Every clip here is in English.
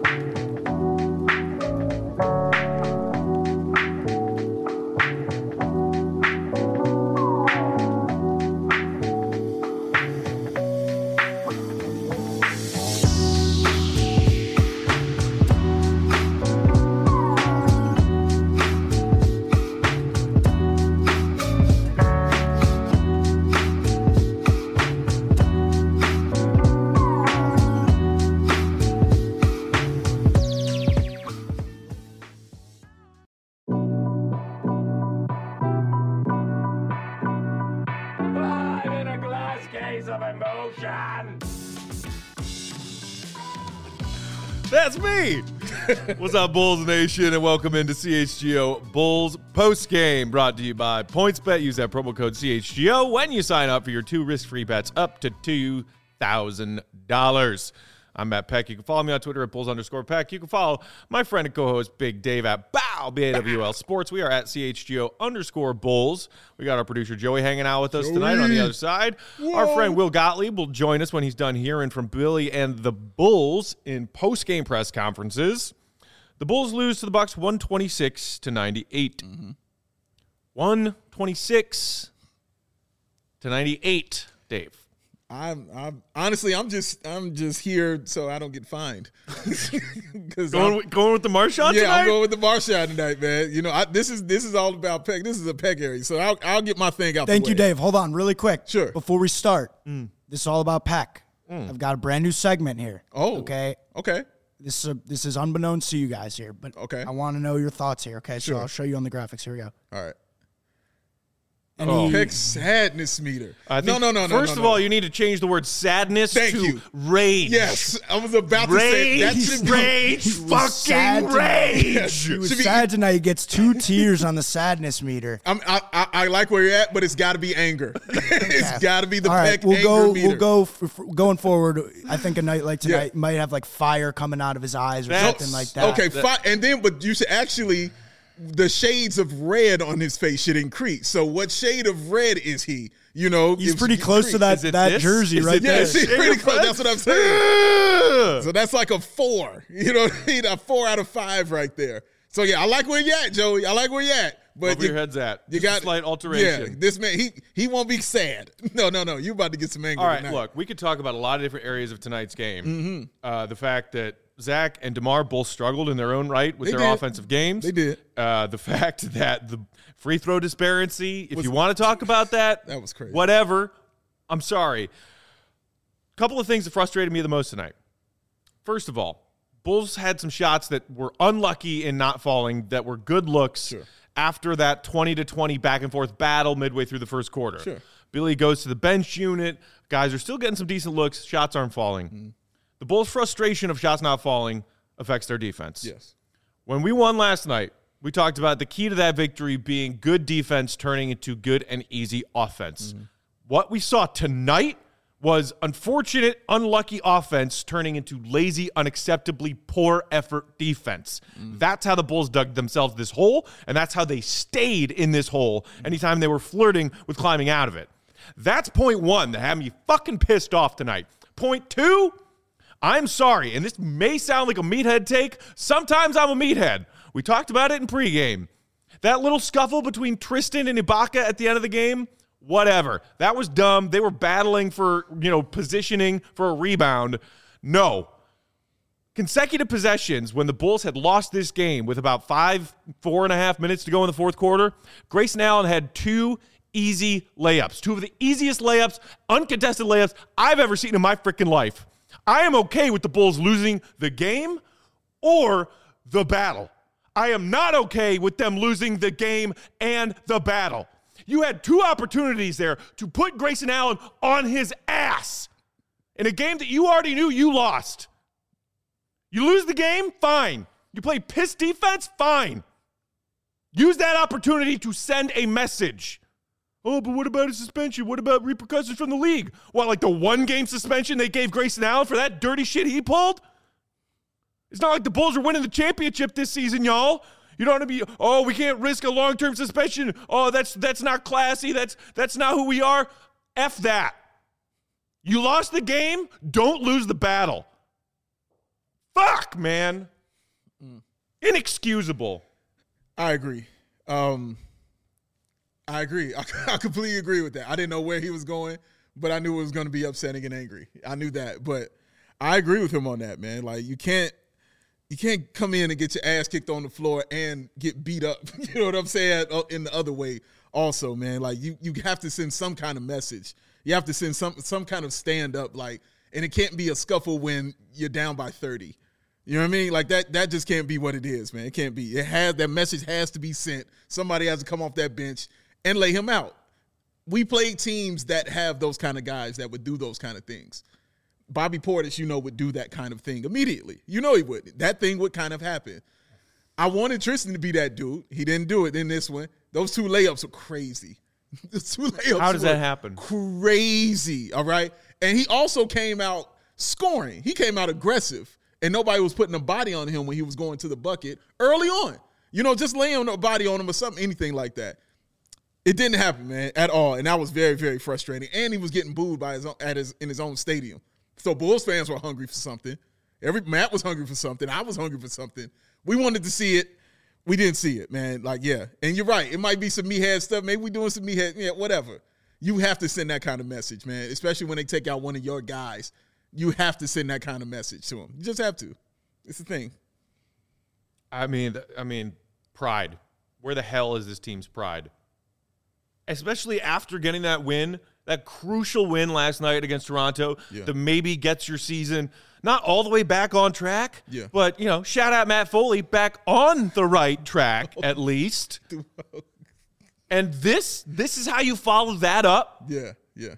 That's me. What's up, Bulls Nation, and welcome into CHGO Bulls Postgame, brought to you by PointsBet. Use that promo code CHGO when you sign up for your 2 risk-free bets up to $2,000. I'm Matt Peck. You can follow me on Twitter at Bulls_Peck. You can follow my friend and co-host Big Dave at BAWL Sports. We are at CHGO_Bulls. We got our producer Joey hanging out with us tonight on the other side. Whoa. Our friend Will Gottlieb will join us when he's done hearing from Billy and the Bulls in post-game press conferences. The Bulls lose to the Bucks 126-98. 126-98, Dave. I'm honestly, I'm just here so I don't get fined. Going with the Marshawn tonight? Yeah, I'm going with the Marshawn tonight, man. You know, this is all about Peck. This is a Peck area, so I'll get my thing out the way. Thank you, Dave. Hold on really quick. Sure. Before we start, this is all about Peck. I've got a brand new segment here. Oh. Okay. This is unbeknownst to you guys here, but okay. I want to know your thoughts here, okay? Sure. So I'll show you on the graphics. Here we go. All right. Peck sadness meter. No. First of all, you need to change the word sadness to rage. Yes, I was about to say that should be rage, fucking rage. He was sad tonight. He gets 2 tears on the sadness meter. I like where you're at, but it's got to be anger. It's got to be the Peck anger meter. We'll go going forward. I think a night like tonight might have like fire coming out of his eyes or something like that. Okay, and then but you should actually. The shades of red on his face should increase. So what shade of red is he? You know, he's pretty close to that jersey right there. Yes, he's pretty close. That's what I'm saying. So that's like a 4. You know what I mean? A 4 out of 5 right there. So yeah, I like where you're at, Joey. I like where you're at. But where your head's at. You got a slight alteration. Yeah, this man, he won't be sad. No. You about to get some anger. All right, tonight. Look, we could talk about a lot of different areas of tonight's game. The fact that Zach and DeMar both struggled in their own right with their offensive games. They did. The fact that the free throw disparity, if you want to talk about that, that was crazy. Whatever. I'm sorry. A couple of things that frustrated me the most tonight. First of all, Bulls had some shots that were unlucky in not falling that were good looks after that 20-20 back and forth battle midway through the first quarter. Sure. Billy goes to the bench unit. Guys are still getting some decent looks. Shots aren't falling. The Bulls' frustration of shots not falling affects their defense. Yes. When we won last night, we talked about the key to that victory being good defense turning into good and easy offense. What we saw tonight was unfortunate, unlucky offense turning into lazy, unacceptably poor effort defense. That's how the Bulls dug themselves this hole, and that's how they stayed in this hole anytime they were flirting with climbing out of it. That's point 1 that had me fucking pissed off tonight. Point 2, I'm sorry, and this may sound like a meathead take. Sometimes I'm a meathead. We talked about it in pregame. That little scuffle between Tristan and Ibaka at the end of the game, whatever. That was dumb. They were battling for, positioning for a rebound. No. Consecutive possessions when the Bulls had lost this game with about 4.5 minutes to go in the fourth quarter, Grayson Allen had 2 easy layups. 2 of the easiest layups, uncontested layups I've ever seen in my freaking life. I am okay with the Bulls losing the game or the battle. I am not okay with them losing the game and the battle. You had 2 opportunities there to put Grayson Allen on his ass in a game that you already knew you lost. You lose the game? Fine. You play piss defense? Fine. Use that opportunity to send a message. Oh, but what about a suspension? What about repercussions from the league? What, like the 1-game suspension they gave Grayson Allen for that dirty shit he pulled? It's not like the Bulls are winning the championship this season, y'all. You don't want to be, we can't risk a long-term suspension. Oh, that's not classy. That's not who we are. F that. You lost the game. Don't lose the battle. Fuck, man. Inexcusable. I agree. I completely agree with that. I didn't know where he was going, but I knew it was going to be upsetting and angry. I knew that, but I agree with him on that, man. Like, you can't come in and get your ass kicked on the floor and get beat up. You know what I'm saying? In the other way also, man. Like, you have to send some kind of message. You have to send some kind of stand up, like, and it can't be a scuffle when you're down by 30. You know what I mean? Like, that just can't be what it is, man. It can't be. That message has to be sent. Somebody has to come off that bench and lay him out. We played teams that have those kind of guys that would do those kind of things. Bobby Portis, would do that kind of thing immediately. He would. That thing would kind of happen. I wanted Tristan to be that dude. He didn't do it in this one. Those 2 layups were crazy. How does that happen? Crazy, all right? And he also came out scoring. He came out aggressive, and nobody was putting a body on him when he was going to the bucket early on. Just laying a body on him or something, anything like that. It didn't happen, man, at all, and that was very, very frustrating. And he was getting booed in his own stadium. So Bulls fans were hungry for something. Matt was hungry for something. I was hungry for something. We wanted to see it. We didn't see it, man. Like, yeah. And you're right. It might be some meathead stuff. Maybe we're doing some meathead, whatever. You have to send that kind of message, man, especially when they take out one of your guys. You have to send that kind of message to them. You just have to. It's the thing. I mean, pride. Where the hell is this team's pride? Especially after getting that win, that crucial win last night against Toronto, that maybe gets your season not all the way back on track, but, shout out Matt Foley, back on the right track at least. And this is how you follow that up? Yeah.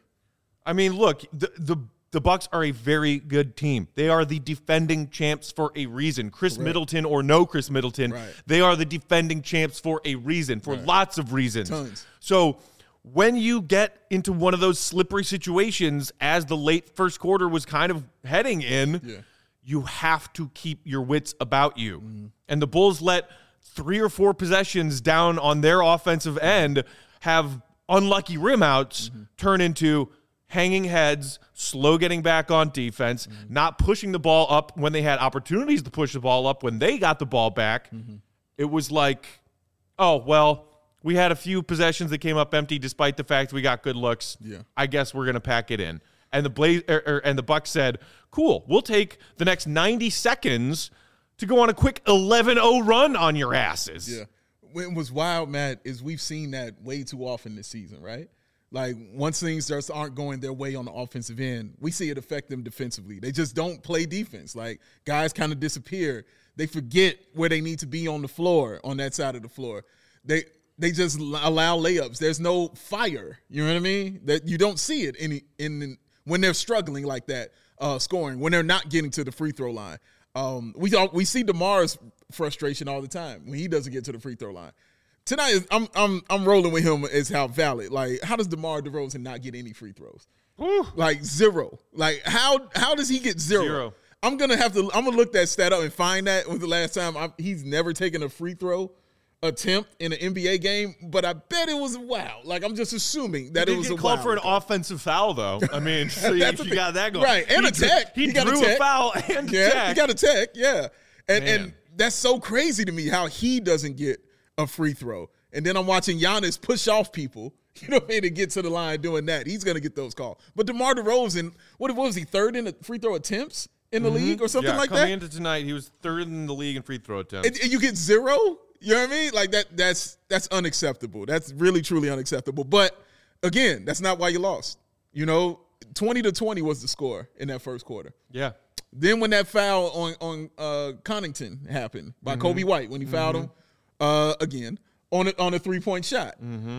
I mean, look, the Bucks are a very good team. They are the defending champs for a reason. Chris Middleton or no Chris Middleton, they are the defending champs for a reason, for lots of reasons. Tons. So when you get into one of those slippery situations, as the late first quarter was kind of heading in, you have to keep your wits about you. And the Bulls let 3 or 4 possessions down on their offensive end have unlucky rim outs turn into hanging heads, slow getting back on defense, not pushing the ball up when they had opportunities to push the ball up when they got the ball back. It was like, oh, well, we had a few possessions that came up empty despite the fact we got good looks. I guess we're going to pack it in. And the Bucks said, cool, we'll take the next 90 seconds to go on a quick 11-0 run on your asses. Yeah. What was wild, Matt, is we've seen that way too often this season, right? Like, once things just aren't going their way on the offensive end, we see it affect them defensively. They just don't play defense. Like, guys kind of disappear. They forget where they need to be on the floor, on that side of the floor. They just allow layups. There's no fire. You know what I mean? That you don't see it when they're struggling like that, scoring, when they're not getting to the free throw line. We see DeMar's frustration all the time when he doesn't get to the free throw line. Tonight, I'm rolling with him as how valid. Like, how does DeMar DeRozan not get any free throws? Like, 0. Like, how does he get 0? I'm gonna look that stat up and find that was the last time he's never taken a free throw attempt in an NBA game, but I bet it was wild. Like, I'm just assuming that it was a called wild for an offensive foul, though. I mean, so you got that going. Right, and a tech. He drew a foul and a tech. He got a tech, And that's so crazy to me how he doesn't get a free throw. And then I'm watching Giannis push off people, to get to the line doing that. He's going to get those calls. But DeMar DeRozan, what was he, 3rd in the free throw attempts in the league or something like that? Coming into tonight, he was 3rd in the league in free throw attempts. And you get 0? You know what I mean? Like, that's unacceptable. That's really, truly unacceptable. But, again, that's not why you lost. 20-20 was the score in that first quarter. Yeah. Then when that foul on Connaughton happened by Kobe White, when he fouled him again on a 3-point shot,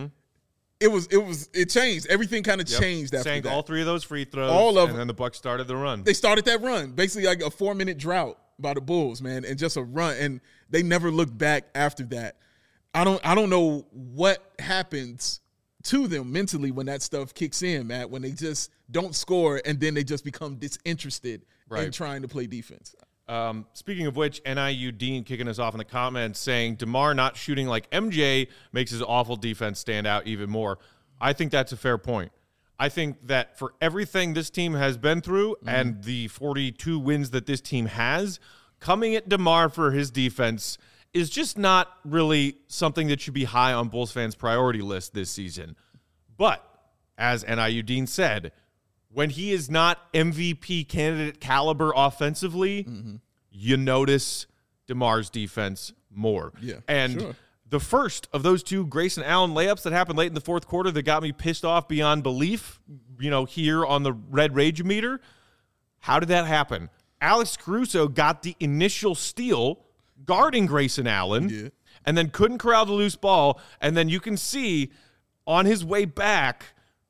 it changed. Everything kind of changed after Sank that. all 3 of those free throws, all of and then the Bucks started the run. They started that run, basically like a 4-minute drought by the Bulls, man, and just a run, and they never looked back after that. I don't know what happens to them mentally when that stuff kicks in, Matt, when they just don't score and then they just become disinterested in trying to play defense. Speaking of which, NIU Dean kicking us off in the comments saying DeMar not shooting like MJ makes his awful defense stand out even more. I think that's a fair point. I think that for everything this team has been through and the 42 wins that this team has, coming at DeMar for his defense is just not really something that should be high on Bulls fans' priority list this season. But, as NIU Dean said, when he is not MVP candidate caliber offensively, you notice DeMar's defense more. Yeah, and sure. The first of those two Grayson Allen layups that happened late in the fourth quarter that got me pissed off beyond belief, here on the Red Rage meter, how did that happen? Alex Caruso got the initial steal guarding Grayson Allen and then couldn't corral the loose ball. And then you can see on his way back,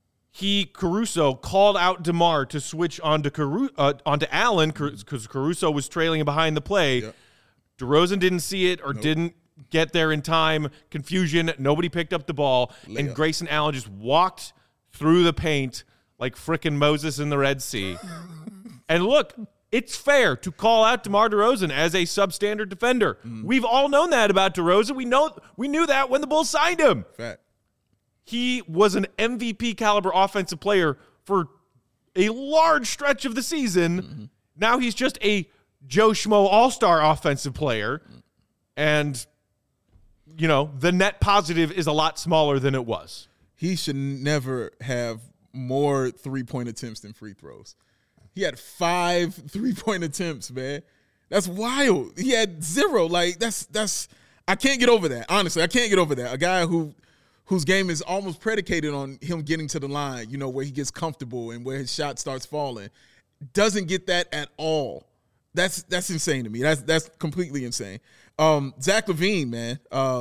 Caruso called out DeMar to switch onto Allen because Caruso was trailing behind the play. Yep. DeRozan didn't see it or didn't get there in time. Confusion. Nobody picked up the ball. And Grayson Allen just walked through the paint like frickin' Moses in the Red Sea. And look, it's fair to call out DeMar DeRozan as a substandard defender. We've all known that about DeRozan. We knew that when the Bulls signed him. Fact. He was an MVP caliber offensive player for a large stretch of the season. Now he's just a Joe Schmo all-star offensive player. And, the net positive is a lot smaller than it was. He should never have more three-point attempts than free throws. He had 5 3-point attempts, man. That's wild. He had 0. Like, that's I can't get over that. Honestly, I can't get over that. A guy whose game is almost predicated on him getting to the line, where he gets comfortable and where his shot starts falling, doesn't get that at all. That's insane to me. That's completely insane. Zach LaVine, man,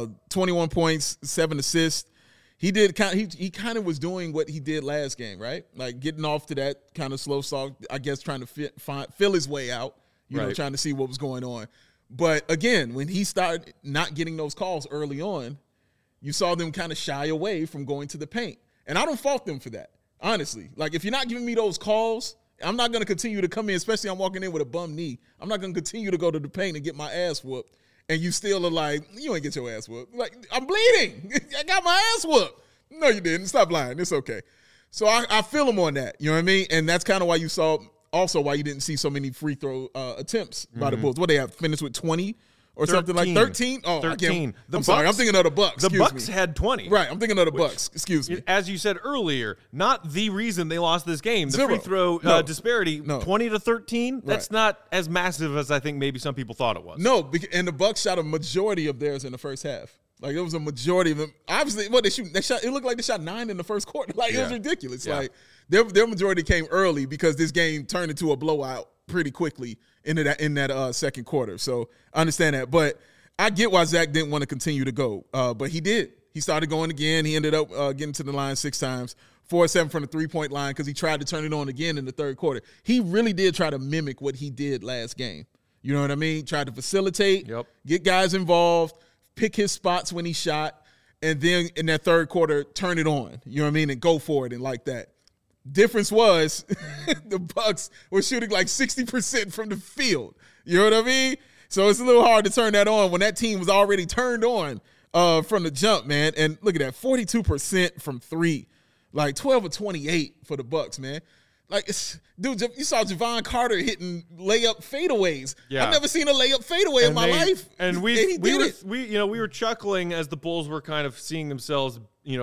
21 points, 7 assists. He kind of was doing what he did last game, right? Like getting off to that kind of slow start, I guess, trying to feel his way out, trying to see what was going on. But again, when he started not getting those calls early on, you saw them kind of shy away from going to the paint. And I don't fault them for that, honestly. Like, if you're not giving me those calls, I'm not going to continue to come in, especially I'm walking in with a bum knee. I'm not going to continue to go to the paint and get my ass whooped. And you still are like, you ain't get your ass whooped. Like, I'm bleeding. I got my ass whooped. No, you didn't. Stop lying. It's okay. So I feel him on that. You know what I mean? And that's kind of why you saw, also why you didn't see so many free throw attempts by the Bulls. What they have, finished with 20 or 13. Something like 13? Oh, 13. Sorry. I'm thinking of the Bucks. The Bucks had 20. Right. I'm thinking of the Bucks. Excuse me. As you said earlier, not the reason they lost this game. The 0. free throw disparity, 20 to 13, that's not as massive as I think maybe some people thought it was. No, and the Bucks shot a majority of theirs in the first half. Like, it was a majority of them. Obviously, they shot. It looked like they shot 9 in the first quarter. Like, it was ridiculous. Yeah. Like, their majority came early because this game turned into a blowout pretty quickly in that second quarter. So I understand that, but I get why Zach didn't want to continue to go, but he did. He started going again. He ended up getting to the line 6 times, 4-7 from the 3-point line because he tried to turn it on again in the third quarter. He really did try to mimic what he did last game. You know what I mean? Tried to facilitate, get guys involved, pick his spots when he shot, and then in that third quarter, turn it on. You know what I mean? And go for it and like that. Difference was the Bucks were shooting like 60% from the field. You know what I mean? So it's a little hard to turn that on when that team was already turned on from the jump, man. And look at that, 42% from 3, like 12 of 28 for the Bucks, man. Like, dude, you saw Javon Carter hitting layup fadeaways. Yeah. I've never seen a layup fadeaway in my life. And we were chuckling as the Bulls were kind of seeing themselves,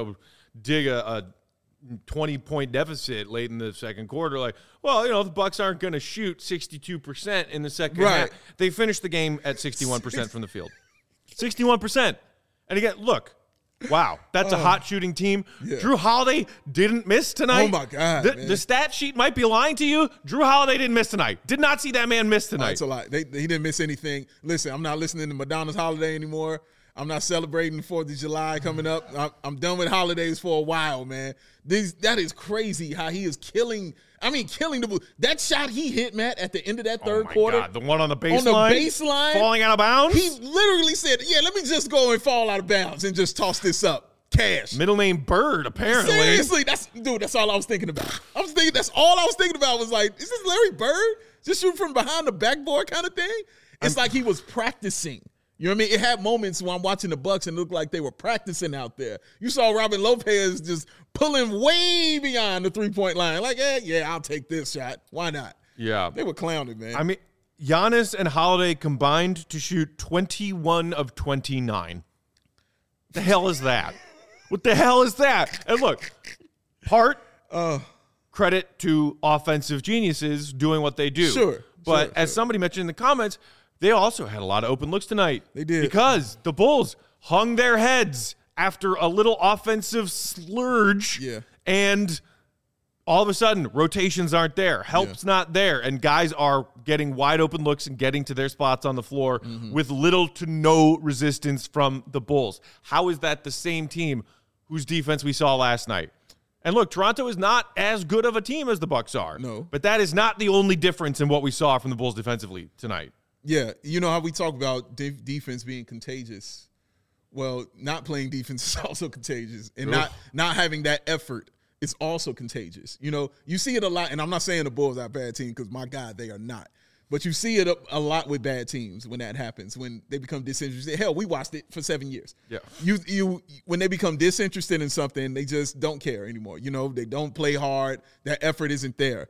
dig a 20-point deficit late in the second quarter. Like, well, the Bucks aren't going to shoot 62% in the second half. They finished the game at 61% from the field. 61%. And again, look, wow, that's a hot shooting team. Yeah. Jrue Holiday didn't miss tonight. Oh, my God, the stat sheet might be lying to you. Jrue Holiday didn't miss tonight. Did not see that man miss tonight. That's a lot. He didn't miss anything. Listen, I'm not listening to Madonna's Holiday anymore. I'm not celebrating the 4th of July coming up. I'm done with holidays for a while, man. That is crazy how he is killing the Bulls. That shot he hit, Matt, at the end of that third quarter. God, the one on the baseline? Falling out of bounds? He literally said, let me just go and fall out of bounds and just toss this up. Cash. Middle name Bird, apparently. Seriously, that's all I was thinking about. That's all I was thinking about was like, is this Larry Bird? Just shooting from behind the backboard kind of thing? It's like he was practicing. You know what I mean? It had moments when I'm watching the Bucks and it looked like they were practicing out there. You saw Robin Lopez just pulling way beyond the 3-point line. Like, I'll take this shot. Why not? Yeah. They were clowning, man. I mean, Giannis and Holiday combined to shoot 21 of 29. The hell is that? What the hell is that? And look, part credit to offensive geniuses doing what they do. Sure. But as somebody mentioned in the comments, they also had a lot of open looks tonight. They did. Because the Bulls hung their heads after a little offensive splurge. Yeah. And all of a sudden, rotations aren't there. Help's not there. And guys are getting wide open looks and getting to their spots on the floor with little to no resistance from the Bulls. How is that the same team whose defense we saw last night? And look, Toronto is not as good of a team as the Bucks are. No. But that is not the only difference in what we saw from the Bulls defensively tonight. Yeah, you know how we talk about defense being contagious. Well, not playing defense is also contagious, and not having that effort is also contagious. You know, you see it a lot, and I'm not saying the Bulls are a bad team because, my God, they are not. But you see it a lot with bad teams when that happens, when they become disinterested. Hell, we watched it for 7 years. Yeah. You when they become disinterested in something, they just don't care anymore. You know, they don't play hard. That effort isn't there.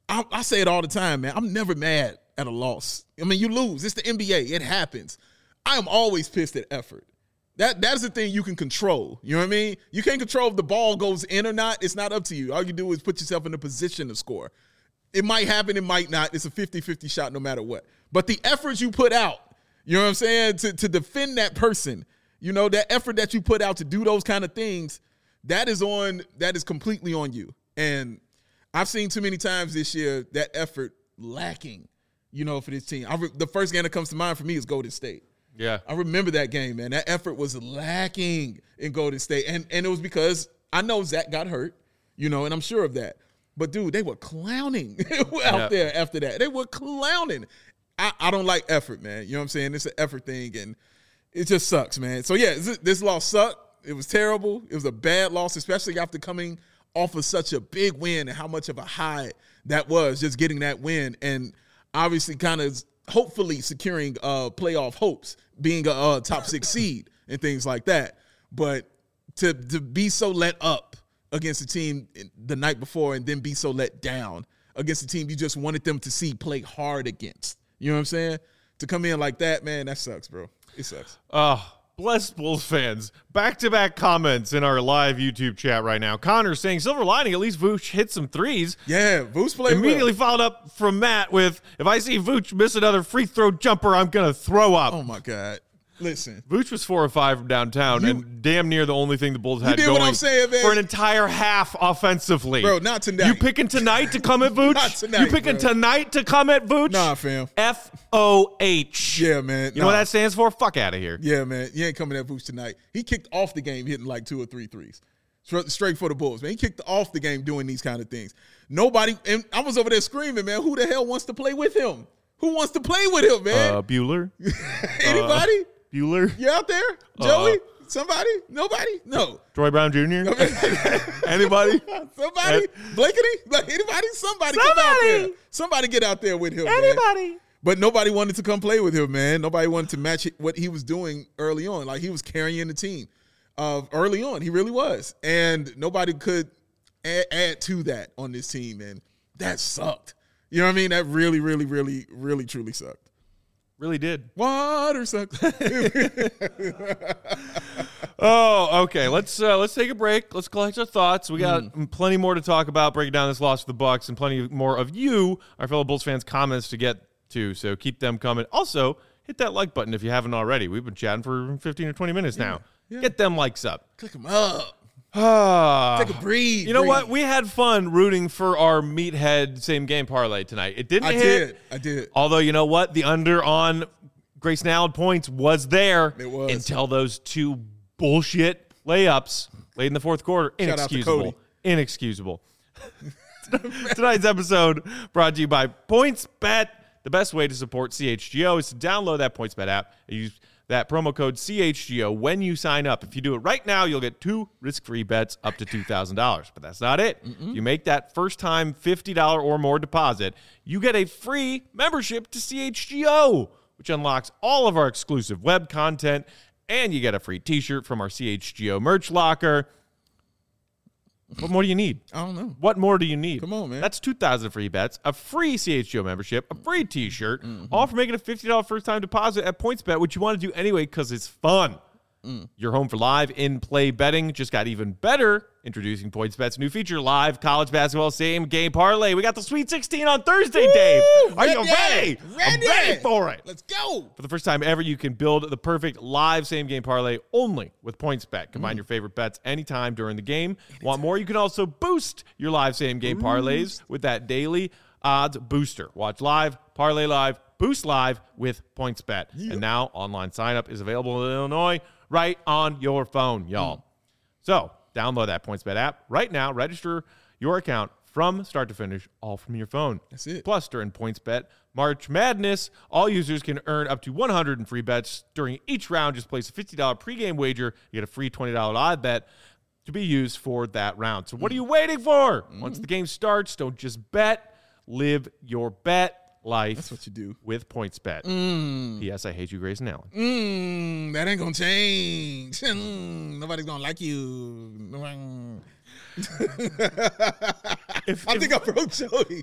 I say it all the time, man. I'm never mad at a loss. I mean, you lose. It's the NBA. It happens. I am always pissed at effort. That's the thing you can control. You know what I mean? You can't control if the ball goes in or not. It's not up to you. All you do is put yourself in a position to score. It might happen. It might not. It's a 50-50 shot no matter what. But the effort you put out, you know what I'm saying, to defend that person, you know, that effort that you put out to do those kind of things, that is completely on you. And I've seen too many times this year that effort lacking, you know, for this team. The first game that comes to mind for me is Golden State. Yeah. I remember that game, man. That effort was lacking in Golden State. And it was because I know Zach got hurt, you know, and I'm sure of that. But, dude, they were clowning out there after that. They were clowning. I don't like effort, man. You know what I'm saying? It's an effort thing, and it just sucks, man. So, yeah, this loss sucked. It was terrible. It was a bad loss, especially after coming off of such a big win and how much of a high that was, just getting that win. And obviously kind of hopefully securing playoff hopes, being a top 6 seed and things like that. But to be so let up against the team the night before and then be so let down against the team you just wanted them to see play hard against. You know what I'm saying? To come in like that, man, that sucks, bro. It sucks. Bless Bulls fans. Back-to-back comments in our live YouTube chat right now. Connor saying, silver lining, at least Vooch hit some threes. Yeah, Vooch played Immediately followed up from Matt with, if I see Vooch miss another free throw jumper, I'm going to throw up. Oh, my God. Listen. Vooch was 4 or 5 from downtown and damn near the only thing the Bulls had going what I'm saying, man. for an entire half offensively. Bro, not tonight. You picking tonight to come at Vooch? Not tonight, You picking tonight to come at Vooch? Nah, fam. FOH. Yeah, man. You know what that stands for? Fuck out of here. Yeah, man. You ain't coming at Vooch tonight. He kicked off the game hitting like 2 or 3 threes. Straight for the Bulls, man. He kicked off the game doing these kind of things. Nobody, and I was over there screaming, man, who the hell wants to play with him? Who wants to play with him, man? Bueller. Anybody? Bueller. You out there? Joey? Somebody? Nobody? No. Troy Brown Jr.? Anybody? Somebody? Blankety? Like anybody? Somebody come out there. Somebody get out there with him, Anybody? Man. But nobody wanted to come play with him, man. Nobody wanted to match what he was doing early on. Like he was carrying the team early on. He really was. And nobody could add to that on this team, and that sucked. You know what I mean? That really, really, really, really, truly sucked. Really did. Water sucks. Oh, okay. Let's take a break. Let's collect our thoughts. We got plenty more to talk about, breaking down this loss for the Bucks, and plenty more of you, our fellow Bulls fans, comments to get to. So keep them coming. Also, hit that like button if you haven't already. We've been chatting for 15 or 20 minutes now. Yeah. Get them likes up. Click them up. Take a breathe. You know what? We had fun rooting for our meathead same game parlay tonight. It didn't hit. I did. Although, you know what? The under on Grayson Allen points was there. It was. Until those 2 bullshit layups late in the fourth quarter. Inexcusable. Inexcusable. Tonight's episode brought to you by PointsBet. The best way to support CHGO is to download that PointsBet app and use that promo code CHGO when you sign up. If you do it right now, you'll get 2 risk-free bets up to $2,000. But that's not it. If you make that first-time $50 or more deposit, you get a free membership to CHGO, which unlocks all of our exclusive web content, and you get a free t-shirt from our CHGO merch locker. What more do you need? I don't know. What more do you need? Come on, man. That's 2,000 free bets, a free CHGO membership, a free T-shirt, all for making a $50 first-time deposit at PointsBet, which you want to do anyway because it's fun. You're home for live in-play betting. Just got even better. Introducing PointsBet's new feature, live college basketball same-game parlay. We got the Sweet 16 on Thursday, Dave. Are you ready? I'm ready for it. Let's go. For the first time ever, you can build the perfect live same-game parlay only with PointsBet. Combine your favorite bets anytime during the game. Want more? You can also boost your live same-game parlays with that daily odds booster. Watch live, parlay live, boost live with PointsBet. Yeah. And now online sign-up is available in Illinois right on your phone, y'all. So download that PointsBet app right now. Register your account from start to finish, all from your phone. That's it. Plus, during PointsBet March Madness, all users can earn up to 100 in free bets during each round. Just place a $50 pregame wager. You get a free $20 live bet to be used for that round. So what are you waiting for? Once the game starts, don't just bet. Live your bet life. That's what you do with PointsBet. P.S. I hate you, Grayson Allen. That ain't gonna change. Nobody's gonna like you. I think I broke Joey.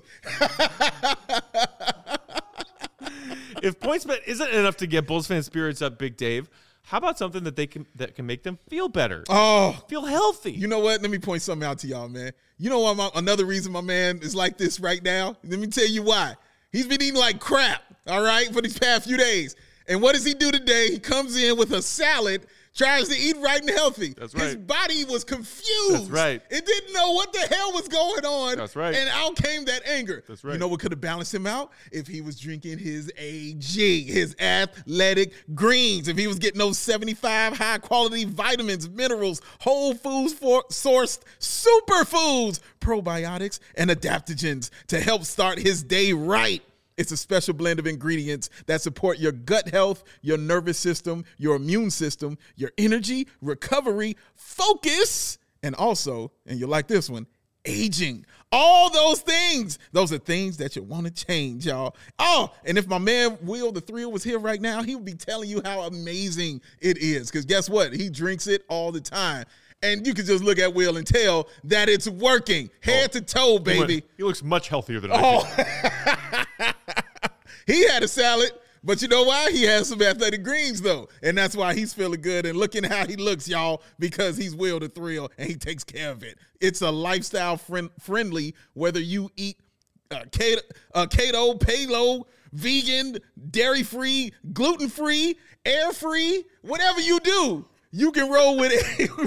If PointsBet isn't enough to get Bulls fan spirits up, Big Dave, how about something that can make them feel better? Oh, feel healthy. You know what? Let me point something out to y'all, man. You know what? Another reason my man is like this right now. Let me tell you why. He's been eating like crap, all right, for these past few days. And what does he do today? He comes in with a salad, tries to eat right and healthy. That's right. His body was confused. That's right. It didn't know what the hell was going on. That's right. And out came that anger. That's right. You know what could have balanced him out? If he was drinking his AG, his athletic greens. If he was getting those 75 high-quality vitamins, minerals, whole foods sourced superfoods, probiotics, and adaptogens to help start his day right. It's a special blend of ingredients that support your gut health, your nervous system, your immune system, your energy, recovery, focus, and also, and you like this one, aging. All those things. Those are things that you want to change, y'all. Oh, and if my man Will the Thrill was here right now, he would be telling you how amazing it is. Because guess what? He drinks it all the time. And you can just look at Will and tell that it's working. Head to toe, baby. He looks much healthier than I do. He had a salad, but you know why? He has some athletic greens, though. And that's why he's feeling good and looking how he looks, y'all, because he's Will the Thrill, and he takes care of it. It's a lifestyle friendly, whether you eat keto, paleo, vegan, dairy-free, gluten-free, air-free, whatever you do. You can roll with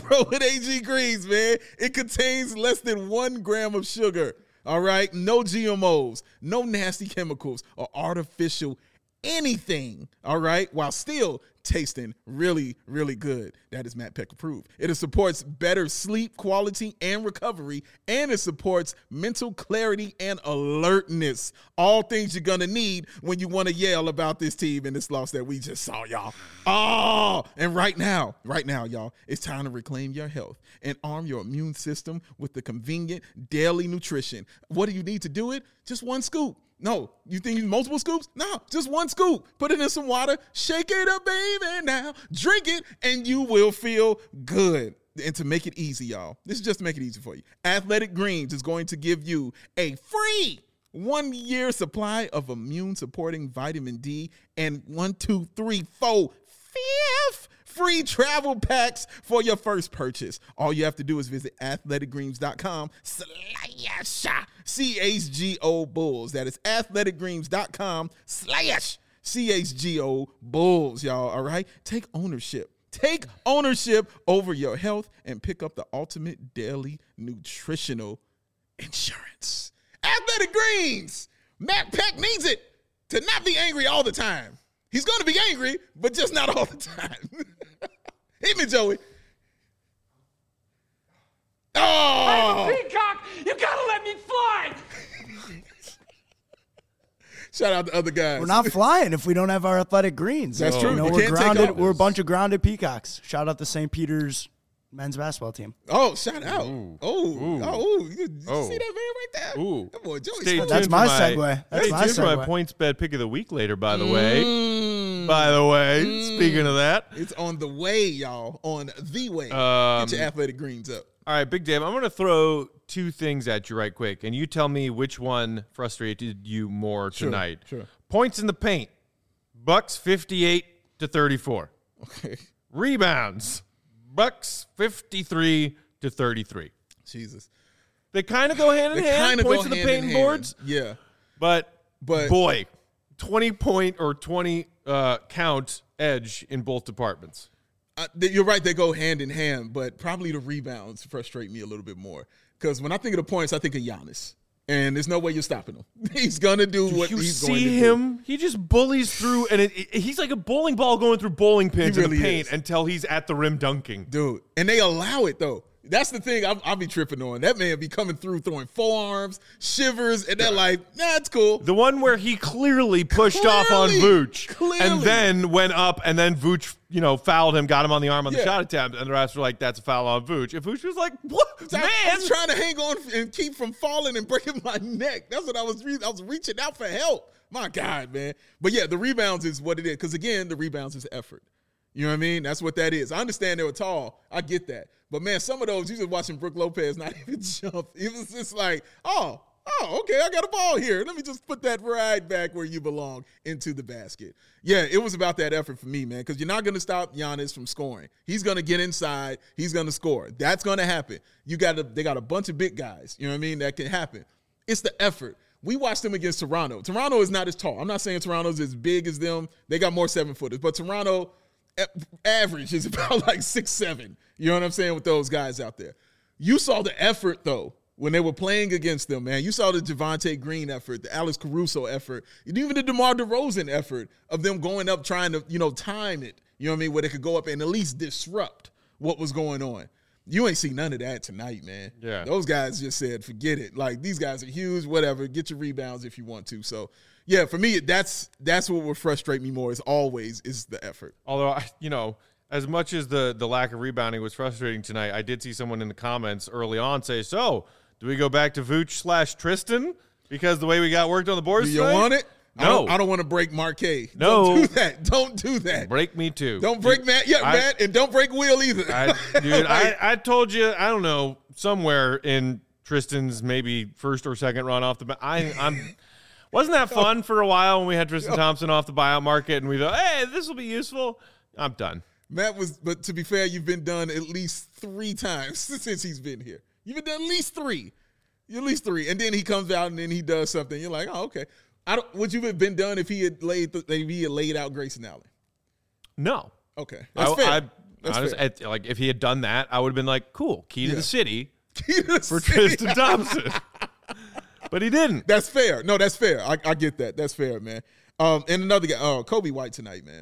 AG Greens, man. It contains less than 1 gram of sugar. All right, no GMOs, no nasty chemicals or artificial anything, all right, while still tasting really, really good. That is Matt Peck approved. It supports better sleep quality and recovery, and it supports mental clarity and alertness. All things you're going to need when you want to yell about this team and this loss that we just saw, y'all. Oh, and right now, y'all, it's time to reclaim your health and arm your immune system with the convenient daily nutrition. What do you need to do it? Just 1 scoop. No, you think you need multiple scoops? No, just 1 scoop. Put it in some water, shake it up, baby, now. Drink it, and you will feel good. And to make it easy, y'all, this is just to make it easy for you. Athletic Greens is going to give you a free 1-year supply of immune-supporting vitamin D and 5 free travel packs for your first purchase. All you have to do is visit athleticgreens.com/CHGO Bulls. That is athleticgreens.com/CHGO Bulls, y'all, all right? Take ownership. Take ownership over your health and pick up the ultimate daily nutritional insurance. Athletic Greens. Matt Peck needs it to not be angry all the time. He's going to be angry, but just not all the time. Hit me, Joey. Oh! I'm a peacock. You got to let me fly. Shout out to other guys. We're not flying if we don't have our athletic greens. That's true. You know, we're grounded. We're a bunch of grounded peacocks. Shout out to St. Peter's men's basketball team. Oh, shout out. You see that man right there? Ooh. That boy Joey. That's my segue. That's my Stay tuned for my segue. PointsBet pick of the week later, by the way. Speaking of that. It's on the way, y'all. On the way. Get your athletic greens up. All right, Big Dave, I'm going to throw two things at you right quick, and you tell me which one frustrated you more tonight. Sure. Points in the paint. Bucks 58-34. Okay. Rebounds. Bucks 53-33. Jesus. They kind of go hand in hand. Points in the paint and boards. Yeah. But boy, 20-point or 20 count edge in both departments. You're right. They go hand in hand, but probably the rebounds frustrate me a little bit more. Because when I think of the points, I think of Giannis. And there's no way you're stopping him. He's going to do what he's going to do. You see him? He just bullies through, and he's like a bowling ball going through bowling pins in the paint until he's at the rim dunking. Dude, and they allow it, though. That's the thing I'll be tripping on. That man be coming through throwing forearms, shivers, and they're like, nah, it's cool. The one where he clearly pushed off on Vooch and then went up, and then Vooch, fouled him, got him on the arm on the shot attempt, and the rest were like, that's a foul on Vooch. And Vooch was like, what, man? I was trying to hang on and keep from falling and breaking my neck. That's what I was reaching out for help. My God, man. But yeah, the rebounds is what it is. Because again, the rebounds is effort. You know what I mean? That's what that is. I understand they were tall. I get that. But, man, some of those, you just watching Brook Lopez not even jump. It was just like, oh, okay, I got a ball here. Let me just put that right back where you belong into the basket. Yeah, it was about that effort for me, man, because you're not going to stop Giannis from scoring. He's going to get inside. He's going to score. That's going to happen. They got a bunch of big guys, you know what I mean, that can happen. It's the effort. We watched them against Toronto. Toronto is not as tall. I'm not saying Toronto's as big as them. They got more 7-footers. But Toronto average is about like 6'7". You know what I'm saying, with those guys out there. You saw the effort, though, when they were playing against them, man. You saw the Javonte Green effort, the Alex Caruso effort, and even the DeMar DeRozan effort of them going up trying to, time it, you know what I mean, where they could go up and at least disrupt what was going on. You ain't see none of that tonight, man. Yeah. Those guys just said, forget it. Like, these guys are huge, whatever. Get your rebounds if you want to. So, yeah, for me, that's what would frustrate me more is the effort. Although, as much as the lack of rebounding was frustrating tonight, I did see someone in the comments early on say, so, do we go back to Vooch/Tristan? Because the way we got worked on the boards Do you tonight? want it? No. I don't want to break Marquet. No. Don't do that. Don't do that. Break me too. Don't break Matt. Yeah, Matt, and don't break Will either. I told you, I don't know, somewhere in Tristan's maybe first or second run off the bat. Wasn't that fun for a while when we had Tristan Thompson off the buyout market and we thought, hey, this will be useful? I'm done. But to be fair, you've been done at least 3 times since he's been here. You've been done at least 3. At least 3. And then he comes out and then he does something. You're like, oh, okay. Would you have been done if he had laid out Grayson Allen? No. Okay. That's fair. Like, if he had done that, I would have been like, cool, key to the city for Tristan Thompson. But he didn't. That's fair. No, that's fair. I get that. That's fair, man. And another guy, Kobe White tonight, man.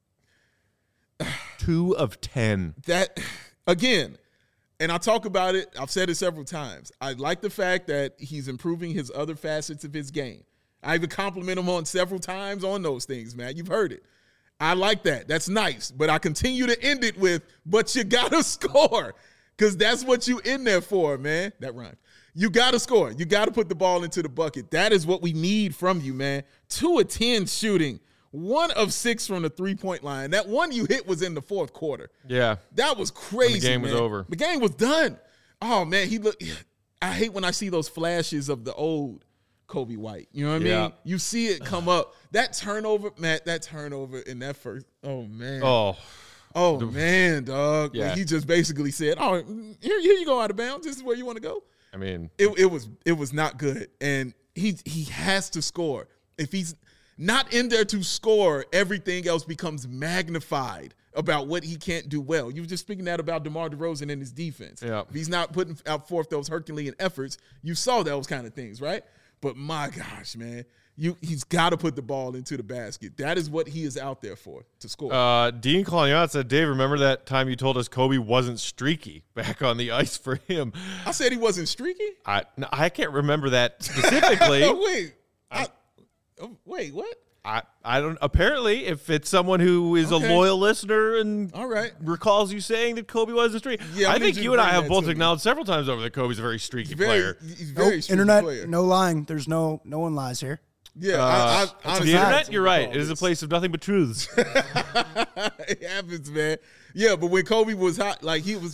2 of 10. That, again, and I talk about it, I've said it several times. I like the fact that he's improving his other facets of his game. I even compliment him on several times on those things, man. You've heard it. I like that. That's nice. But I continue to end it with, but you got to score. Because that's what you in there for, man. That rhymed. You got to score. You got to put the ball into the bucket. That is what we need from you, man. 2 of 10 shooting. 1 of 6 from the three-point line. That one you hit was in the fourth quarter. Yeah. That was crazy, when the game was over. The game was done. Oh, man. I hate when I see those flashes of the old Kobe White. You know what I mean? You see it come up. That turnover, Matt, in that first, oh, man. Oh, man, dog. Yeah. He just basically said, oh, here you go out of bounds. This is where you want to go. I mean. It was not good. And he has to score. If he's not in there to score, everything else becomes magnified about what he can't do well. You were just speaking that about DeMar DeRozan and his defense. Yeah. If he's not putting out forth those Herculean efforts, you saw those kind of things, right? But my gosh, man, he's got to put the ball into the basket. That is what he is out there for, to score. Dean Collion said, Dave, remember that time you told us Kobe wasn't streaky back on the ice for him? I said he wasn't streaky? I can't remember that specifically. Wait, what? I don't. Apparently, if it's someone who is a loyal listener and recalls you saying that Kobe wasn't streaky, I think you and I have both acknowledged several times over that Kobe's a very streaky player. He's very streaky internet, player. no lying. There's no one lies here. Yeah, the internet. You're right. It is a place of nothing but truths. It happens, man. Yeah, but when Kobe was hot, like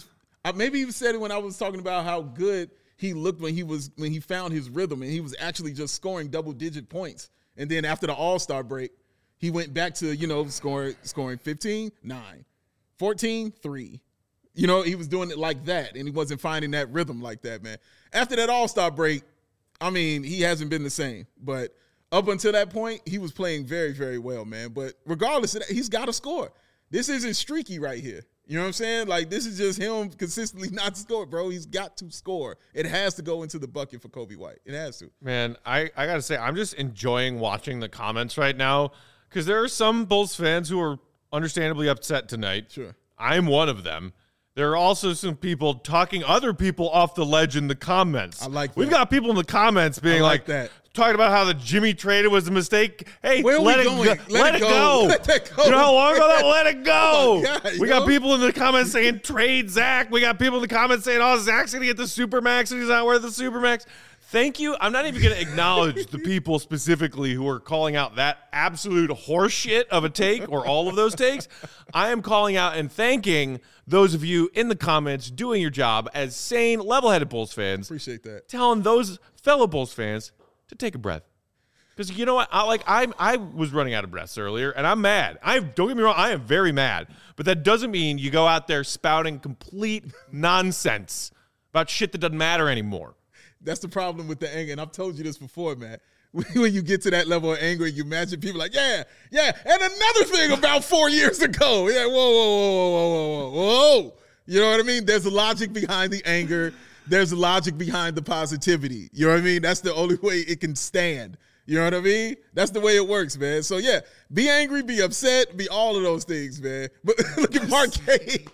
Maybe he said it when I was talking about how good he looked when he found his rhythm and he was actually just scoring double-digit points. And then after the All-Star break, he went back to, scoring 15, 9, 14, 3. He was doing it like that, and he wasn't finding that rhythm like that, man. After that All-Star break, I mean, he hasn't been the same. But up until that point, he was playing very, very well, man. But regardless of that, he's got to score. This isn't streaky right here. You know what I'm saying? Like, this is just him consistently not score, bro. He's got to score. It has to go into the bucket for Coby White. It has to. Man, I got to say, I'm just enjoying watching the comments right now because there are some Bulls fans who are understandably upset tonight. Sure. I'm one of them. There are also some people talking other people off the ledge in the comments. I like that. We've got people in the comments being like that. Talking about how the Jimmy traded was a mistake. Hey, where let are it we going? go. Let it go. Let that go. You know how long ago that? Let it go. Oh my God, we got people in the comments saying trade Zach. We got people in the comments saying, oh, Zach's going to get the Supermax and he's not worth the Supermax. Thank you. I'm not even going to acknowledge the people specifically who are calling out that absolute horseshit of a take or all of those takes. I am calling out and thanking those of you in the comments doing your job as sane, level-headed Bulls fans. Appreciate that. Telling those fellow Bulls fans to take a breath. Because you know what? I was running out of breaths earlier, and I'm mad. Don't get me wrong, I am very mad. But that doesn't mean you go out there spouting complete nonsense about shit that doesn't matter anymore. That's the problem with the anger, and I've told you this before, man. When you get to that level of anger, you imagine people like, yeah, and another thing about 4 years ago. Yeah, whoa. You know what I mean? There's a logic behind the anger. There's a logic behind the positivity. You know what I mean? That's the only way it can stand. You know what I mean? That's the way it works, man. So, yeah, be angry, be upset, be all of those things, man. But look at Marquet.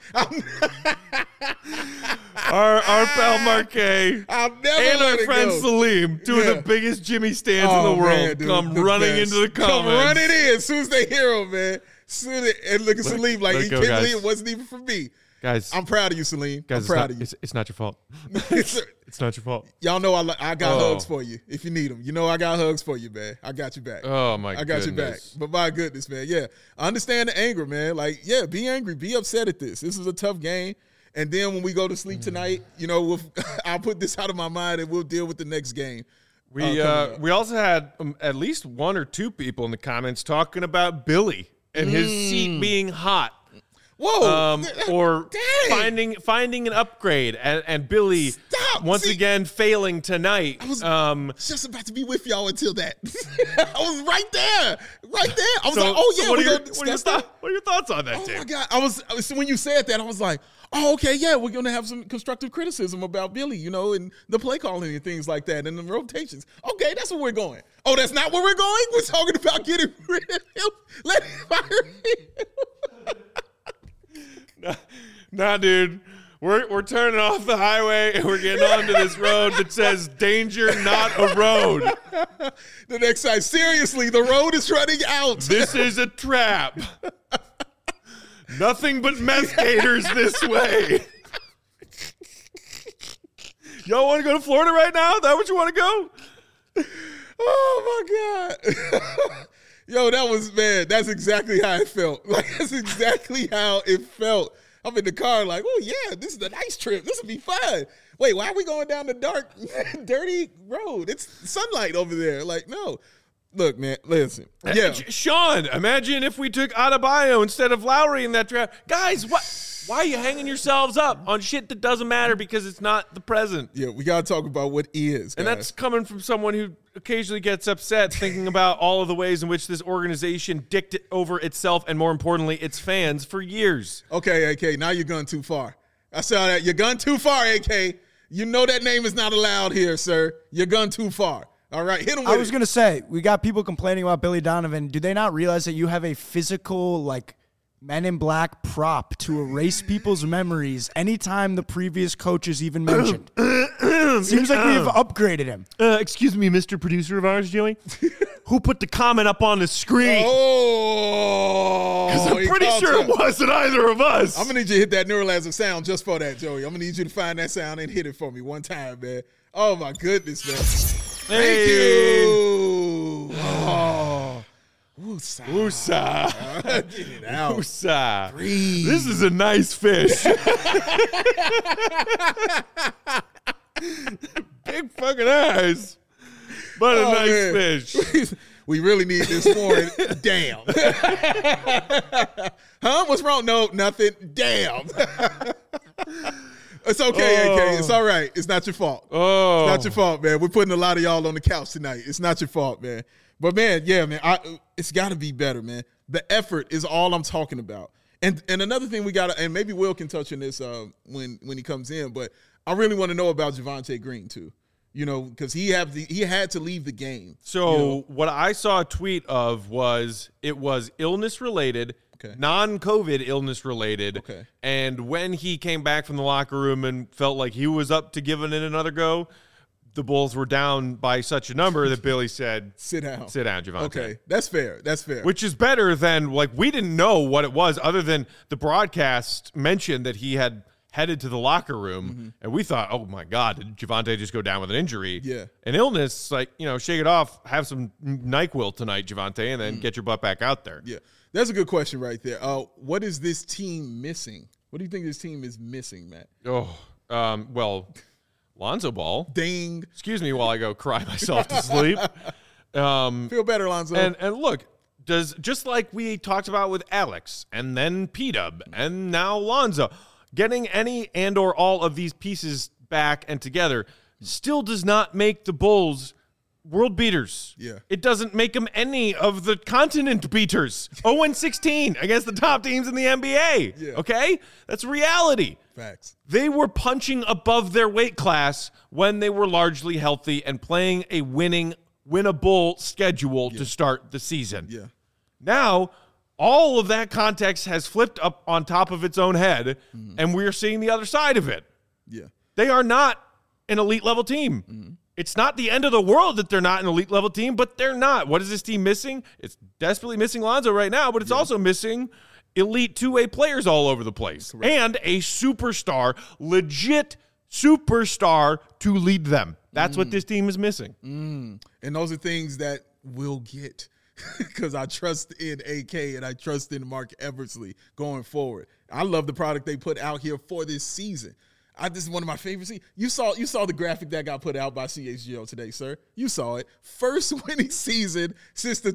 Our pal Marquet and our friend Salim, two of the biggest Jimmy stands in the world, man, dude, come running into the comments. Come running in as soon as they hear him, man. And look at Salim like he can't believe it wasn't even for me. Guys, I'm proud of you, Salim. Guys, I'm proud of you. It's not your fault. It's not your fault. Y'all know I got hugs for you if you need them. You know I got hugs for you, man. I got you back. Oh, my I got you back. But my goodness, man. Yeah, I understand the anger, man. Like, yeah, be angry. Be upset at this. This is a tough game. And then when we go to sleep tonight, I'll put this out of my mind and we'll deal with the next game. We also had at least one or two people in the comments talking about Billy and his seat being hot. Whoa! Or finding an upgrade and Billy once again failing tonight. I was just about to be with y'all until that. I was right there. I was like, oh yeah. What are your thoughts on that, Tim? Oh my God! When you said that, I was like, oh okay, yeah, we're gonna have some constructive criticism about Billy, and the play calling and things like that, and the rotations. Okay, that's where we're going. Oh, that's not where we're going. We're talking about getting rid of him. Let him fire him. Nah, dude. We're turning off the highway and we're getting onto this road that says danger, not a road. The next time, seriously, the road is running out. This is a trap. Nothing but meth gators this way. Y'all want to go to Florida right now? Is that what you want to go? Oh, my God. Yo, that's exactly how it felt. Like, that's exactly how it felt. I'm in the car like, oh, yeah, this is a nice trip. This will be fun. Wait, why are we going down the dark, dirty road? It's sunlight over there. Like, no. Look, man, listen. Yeah. Sean, imagine if we took Adebayo instead of Lowry in that draft. Guys, why are you hanging yourselves up on shit that doesn't matter because it's not the present? Yeah, we got to talk about what is, guys. And that's coming from someone who occasionally gets upset thinking about all of the ways in which this organization dicked it over itself and, more importantly, its fans for years. Okay, AK, now you're going too far. I saw that. You're gone too far, AK. You know that name is not allowed here, sir. You're gone too far. All right, hit him with it. I was going to say, we got people complaining about Billy Donovan. Do they not realize that you have a physical, Men in Black prop to erase people's memories anytime the previous coach is even mentioned? Seems like we've upgraded him. Excuse me, Mr. Producer of ours, Joey? Who put the comment up on the screen? Oh! Because I'm pretty sure it wasn't either of us. I'm going to need you to hit that Neuralizer sound just for that, Joey. I'm going to need you to find that sound and hit it for me one time, man. Oh, my goodness, man. Hey. Thank you. Woosah. Woosah. Get it out. Woosah. Breathe. This is a nice fish. Big fucking eyes. But a nice man. fish. We really need this morning. Damn. Huh? What's wrong? No, nothing. Damn. It's okay, AK. It's all right. It's not your fault. Oh. It's not your fault, man. We're putting a lot of y'all on the couch tonight. It's not your fault, man. But, man, yeah, man, it's got to be better, man. The effort is all I'm talking about. And another thing we got to – and maybe Will can touch on this when he comes in, but I really want to know about Javonte Green too, you know, because he had to leave the game. So what I saw a tweet of was it was illness-related, non-COVID illness-related, and when he came back from the locker room and felt like he was up to giving it another go, the Bulls were down by such a number that Billy said, Sit down, Javonte. Okay, that's fair. Which is better than, like, we didn't know what it was other than the broadcast mentioned that he had headed to the locker room, and we thought, oh, my God, did Javonte just go down with an injury? Yeah. An illness, like, you know, shake it off, have some NyQuil tonight, Javonte, and then get your butt back out there. Yeah, that's a good question right there. What is this team missing? What do you think this team is missing, Matt? Well, Lonzo Ball. Ding. Excuse me while I go cry myself to sleep. Feel better, Lonzo. And look, just like we talked about with Alex and then P-Dub and now Lonzo, getting any and or all of these pieces back and together still does not make the Bulls world beaters. Yeah. It doesn't make them any of the continent beaters. 0-16 against the top teams in the NBA. Yeah. Okay? That's reality. Facts. They were punching above their weight class when they were largely healthy and playing a winnable schedule to start the season. Yeah. Now, all of that context has flipped up on top of its own head, and we're seeing the other side of it. Yeah. They are not an elite level team. It's not the end of the world that they're not an elite level team, but they're not. What is this team missing? It's desperately missing Lonzo right now, but it's also missing elite two-way players all over the place. Correct. And a superstar, legit superstar to lead them. That's what this team is missing. And those are things that we'll get because I trust in AK and I trust in Mark Eversley going forward. I love the product they put out here for this season. This is one of my favorites. You saw the graphic that got put out by CHGO today, sir. You saw it. First winning season since the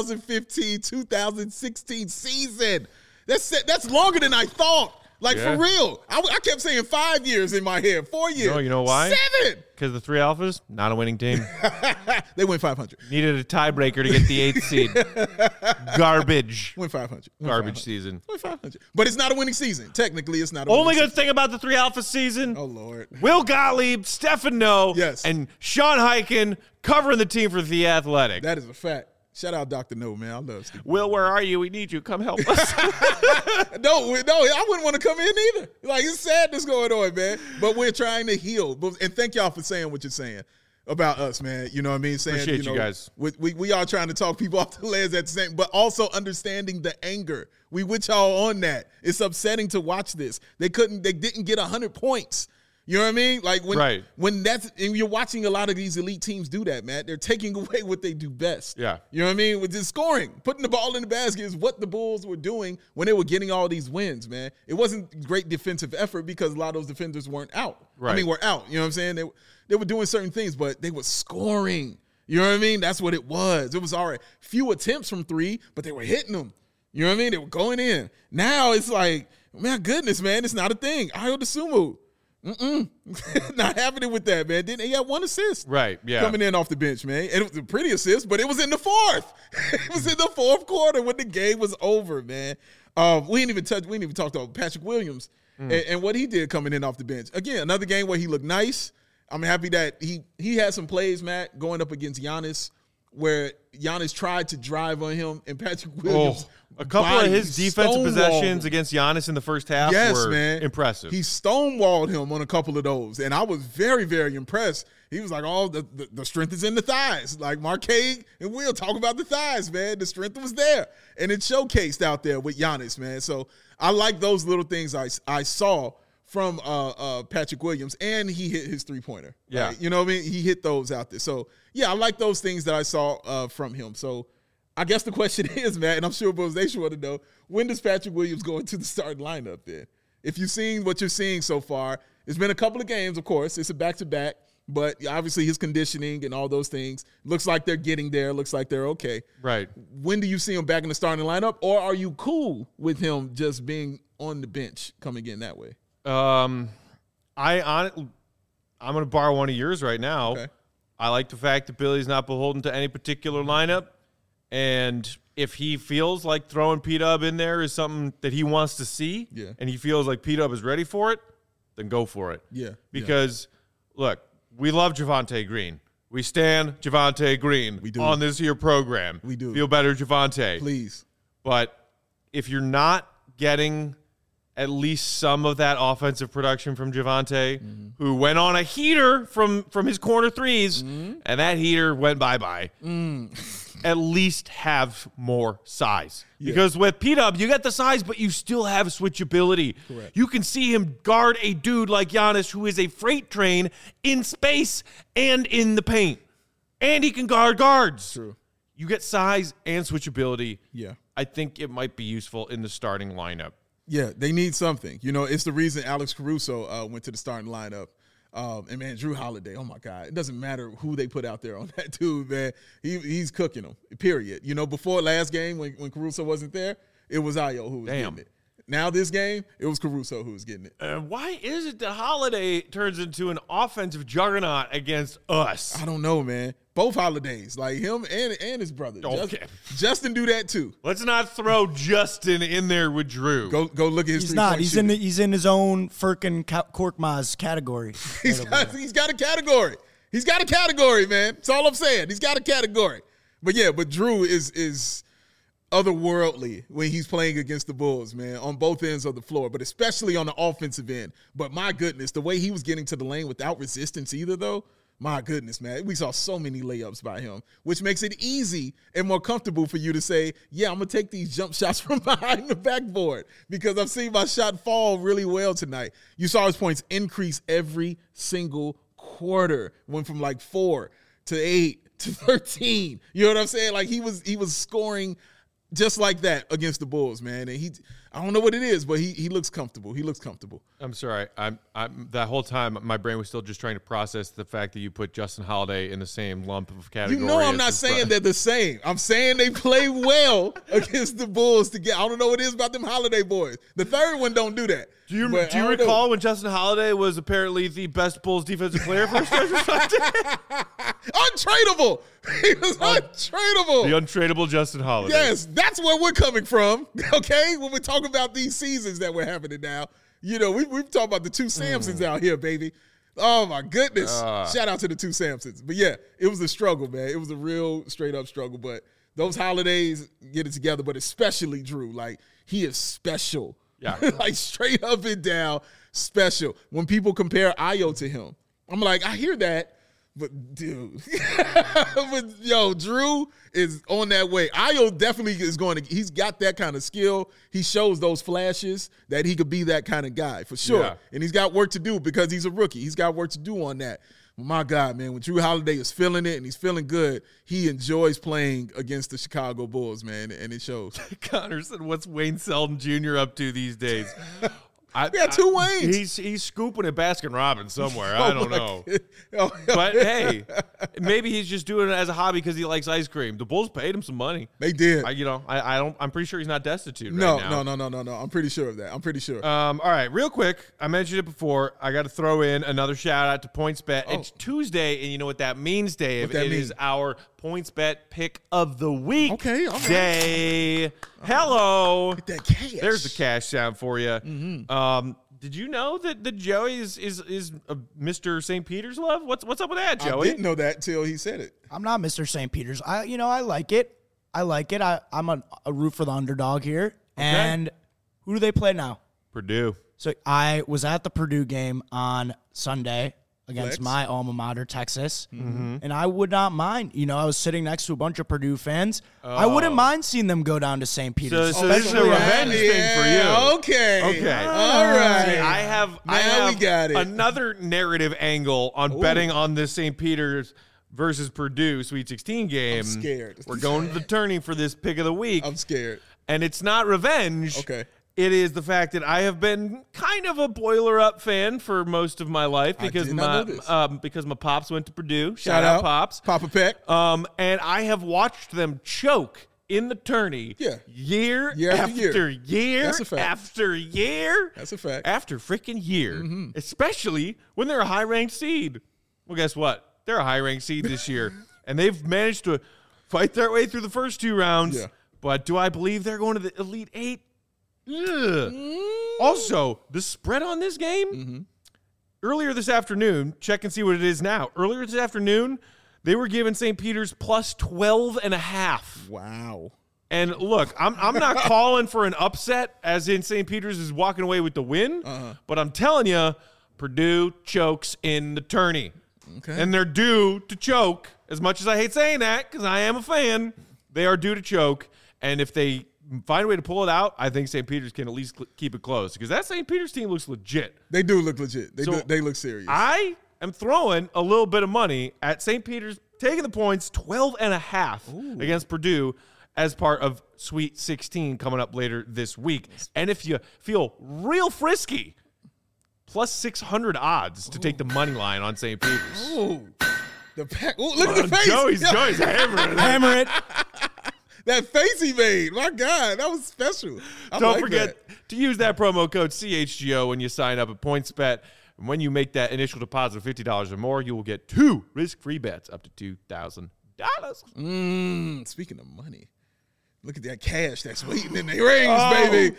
2015-2016 season. That's longer than I thought. Like, for real. I kept saying 5 years in my head. 4 years. You know why? 7. Because the three alphas, not a winning team. They went 500. Needed a tiebreaker to get the 8th seed. Garbage. Went 500. Garbage season. Went 500. But it's not a winning season. Technically, it's not a Only winning good thing about the three alpha season, season. Oh, Lord. Will Gottlieb, Stefan No, Yes. and Sean Highkin covering the team for The Athletic. That is a fact. Shout out Dr. No, man. I love Steve. Will, where are you? We need you. Come help us. No, I wouldn't want to come in either. Like, it's sadness going on, man. But we're trying to heal. And thank y'all for saying what you're saying about us, man. You know what I mean? Saying, Appreciate you guys. We are trying to talk people off the ledge at the same, but also understanding the anger. We with y'all on that. It's upsetting to watch this. They didn't get 100 points. You know what I mean? Like when and you're watching a lot of these elite teams do that, man. They're taking away what they do best. Yeah. You know what I mean? With just scoring, putting the ball in the basket is what the Bulls were doing when they were getting all these wins, man. It wasn't great defensive effort because a lot of those defenders weren't out. Right. I mean, were out. You know what I'm saying? They were doing certain things, but they were scoring. You know what I mean? That's what it was. It was all right. Few attempts from three, but they were hitting them. You know what I mean? They were going in. Now it's like, man, goodness, man, it's not a thing. Ayo Dosunmu. Not happening with that, man. He had one assist. Right, yeah. Coming in off the bench, man. And it was a pretty assist, but it was in the fourth. It was in the fourth quarter when the game was over, man. We didn't even talk about Patrick Williams and what he did coming in off the bench. Again, another game where he looked nice. I'm happy that he had some plays, Matt, going up against Giannis, where Giannis tried to drive on him, and Patrick Williams. A couple of his defensive possessions against Giannis in the first half were impressive. He stonewalled him on a couple of those, and I was very, very impressed. He was like, oh, the strength is in the thighs. Like Marquez and Will talk about the thighs, man. The strength was there, and it showcased out there with Giannis, man. So I like those little things I saw from Patrick Williams, and he hit his three-pointer. Yeah. Right? You know what I mean? He hit those out there. So, yeah, I like those things that I saw from him. So, I guess the question is, Matt, and I'm sure Bulls Nation want to know, when does Patrick Williams go into the starting lineup then? If you've seen what you're seeing so far, it's been a couple of games, of course. It's a back-to-back, but obviously his conditioning and all those things, looks like they're getting there, looks like they're okay. Right. When do you see him back in the starting lineup, or are you cool with him just being on the bench coming in that way? I'm going to borrow one of yours right now. Okay. I like the fact that Billy's not beholden to any particular lineup. And if he feels like throwing P-Dub in there is something that he wants to see, and he feels like P-Dub is ready for it, then go for it. Yeah. Because, look, we love Javonte Green. We stand Javonte Green on this here program. We do. Feel better, Javonte. Please. But if you're not getting at least some of that offensive production from Javonte, who went on a heater from his corner threes, and that heater went bye-bye. At least have more size. Yeah. Because with P-Dub, you get the size, but you still have switchability. Correct. You can see him guard a dude like Giannis, who is a freight train in space and in the paint. And he can guard guards. True. You get size and switchability. Yeah. I think it might be useful in the starting lineup. Yeah, they need something. You know, it's the reason Alex Caruso went to the starting lineup. And, man, Drew Holiday, oh, my God. It doesn't matter who they put out there on that dude, man. He's cooking them, period. You know, before last game when Caruso wasn't there, it was Ayo who was getting it. Now this game, it was Caruso who was getting it. Why is it that Holiday turns into an offensive juggernaut against us? I don't know, man. Both Holidays, like him and his brother. Okay. Justin do that too. Let's not throw Justin in there with Drew. Go look at his. He's not. He's in his own Furkan Korkmaz category. He's got a category. He's got a category, man. That's all I'm saying. He's got a category. But Drew is otherworldly when he's playing against the Bulls, man, on both ends of the floor, but especially on the offensive end. But my goodness, the way he was getting to the lane without resistance either, though, my goodness, man. We saw so many layups by him, which makes it easy and more comfortable for you to say, yeah, I'm going to take these jump shots from behind the backboard because I've seen my shot fall really well tonight. You saw his points increase every single quarter. Went from like 4 to 8 to 13. You know what I'm saying? Like he was scoring just like that against the Bulls, man. And I don't know what it is, but he looks comfortable. He looks comfortable. I'm sorry. I'm that whole time my brain was still just trying to process the fact that you put Justin Holiday in the same lump of category. You know I'm not saying they're the same. I'm saying they play well against the Bulls together. I don't know what it is about them Holiday boys. The third one don't do that. Do you recall when Justin Holiday was apparently the best Bulls defensive player for a stretch of time? Untradeable. He was untradeable. The untradeable Justin Holiday. Yes, that's where we're coming from, okay? When we talk about these seasons that we're happening now. You know, we've talked about the two Samsons out here, baby. Oh, my goodness. Shout out to the two Samsons. But, yeah, it was a struggle, man. It was a real straight-up struggle. But those Holidays get it together, but especially Drew. Like, he is special. Yeah. Like, straight up and down special. When people compare Ayo to him, I'm like, I hear that. But, dude, Drew is on that way. Ayo definitely is he's got that kind of skill. He shows those flashes that he could be that kind of guy for sure. Yeah. And he's got work to do because he's a rookie. He's got work to do on that. My God, man, when Drew Holiday is feeling it and he's feeling good, he enjoys playing against the Chicago Bulls, man, and it shows. Connor said, what's Wayne Selden Jr. up to these days? We got two Waynes. He's scooping at Baskin-Robbins somewhere. I don't know. But, hey, maybe he's just doing it as a hobby because he likes ice cream. The Bulls paid him some money. They did. I'm pretty sure he's not destitute right now. No. I'm pretty sure of that. I'm pretty sure. All right, real quick. I mentioned it before. I got to throw in another shout-out to PointsBet. Oh. It's Tuesday, and you know what that means, Dave. It is our PointsBet pick of the week. Okay, all right. Day. Hello. Get that cash. There's the cash sound for you. Mm-hmm. Did you know that Joey is Mr. St. Peter's love? What's up with that, Joey? I didn't know that until he said it. I'm not Mr. St. Peter's. I like it. I'm a root for the underdog here. Okay. And who do they play now? Purdue. So I was at the Purdue game on Sunday against my alma mater, Texas. Mm-hmm. And I would not mind. I was sitting next to a bunch of Purdue fans. Oh. I wouldn't mind seeing them go down to St. Peter's. So this is a revenge thing for you. Okay. All right. See, I have we got it. Another narrative angle on betting on this St. Peter's versus Purdue Sweet 16 game. I'm scared. We're going to the tourney for this pick of the week. I'm scared. And it's not revenge. Okay. It is the fact that I have been kind of a Boiler Up fan for most of my life because my pops went to Purdue. Shout out Pops. Papa Peck. And I have watched them choke in the tourney year after year That's a fact. after year. That's a fact. After freaking year. Especially when they're a high-ranked seed. Well, guess what? They're a high-ranked seed this year. And they've managed to fight their way through the first 2 rounds. Yeah. But do I believe they're going to the Elite 8? Ugh. Also, the spread on this game, earlier this afternoon, check and see what it is now. Earlier this afternoon, they were giving St. Peter's plus 12.5. Wow. And look, I'm not calling for an upset, as in St. Peter's is walking away with the win, but I'm telling you, Purdue chokes in the tourney. Okay. And they're due to choke. As much as I hate saying that, because I am a fan, they are due to choke. And if they find a way to pull it out, I think St. Peter's can at least keep it close, because that St. Peter's team looks legit. They do look legit. So They look serious. I am throwing a little bit of money at St. Peter's taking the points 12.5 against Purdue as part of Sweet 16 coming up later this week. And if you feel real frisky, plus 600 odds to take the money line on St. Peter's. Ooh. The pack. Ooh, look at the face. Joey's hammering it. Hammer it. That face he made. My God, that was special. Don't forget to use that promo code CHGO when you sign up at PointsBet. And when you make that initial deposit of $50 or more, you will get 2 risk-free bets up to $2,000. Speaking of money, look at that cash that's waiting in the rings, baby.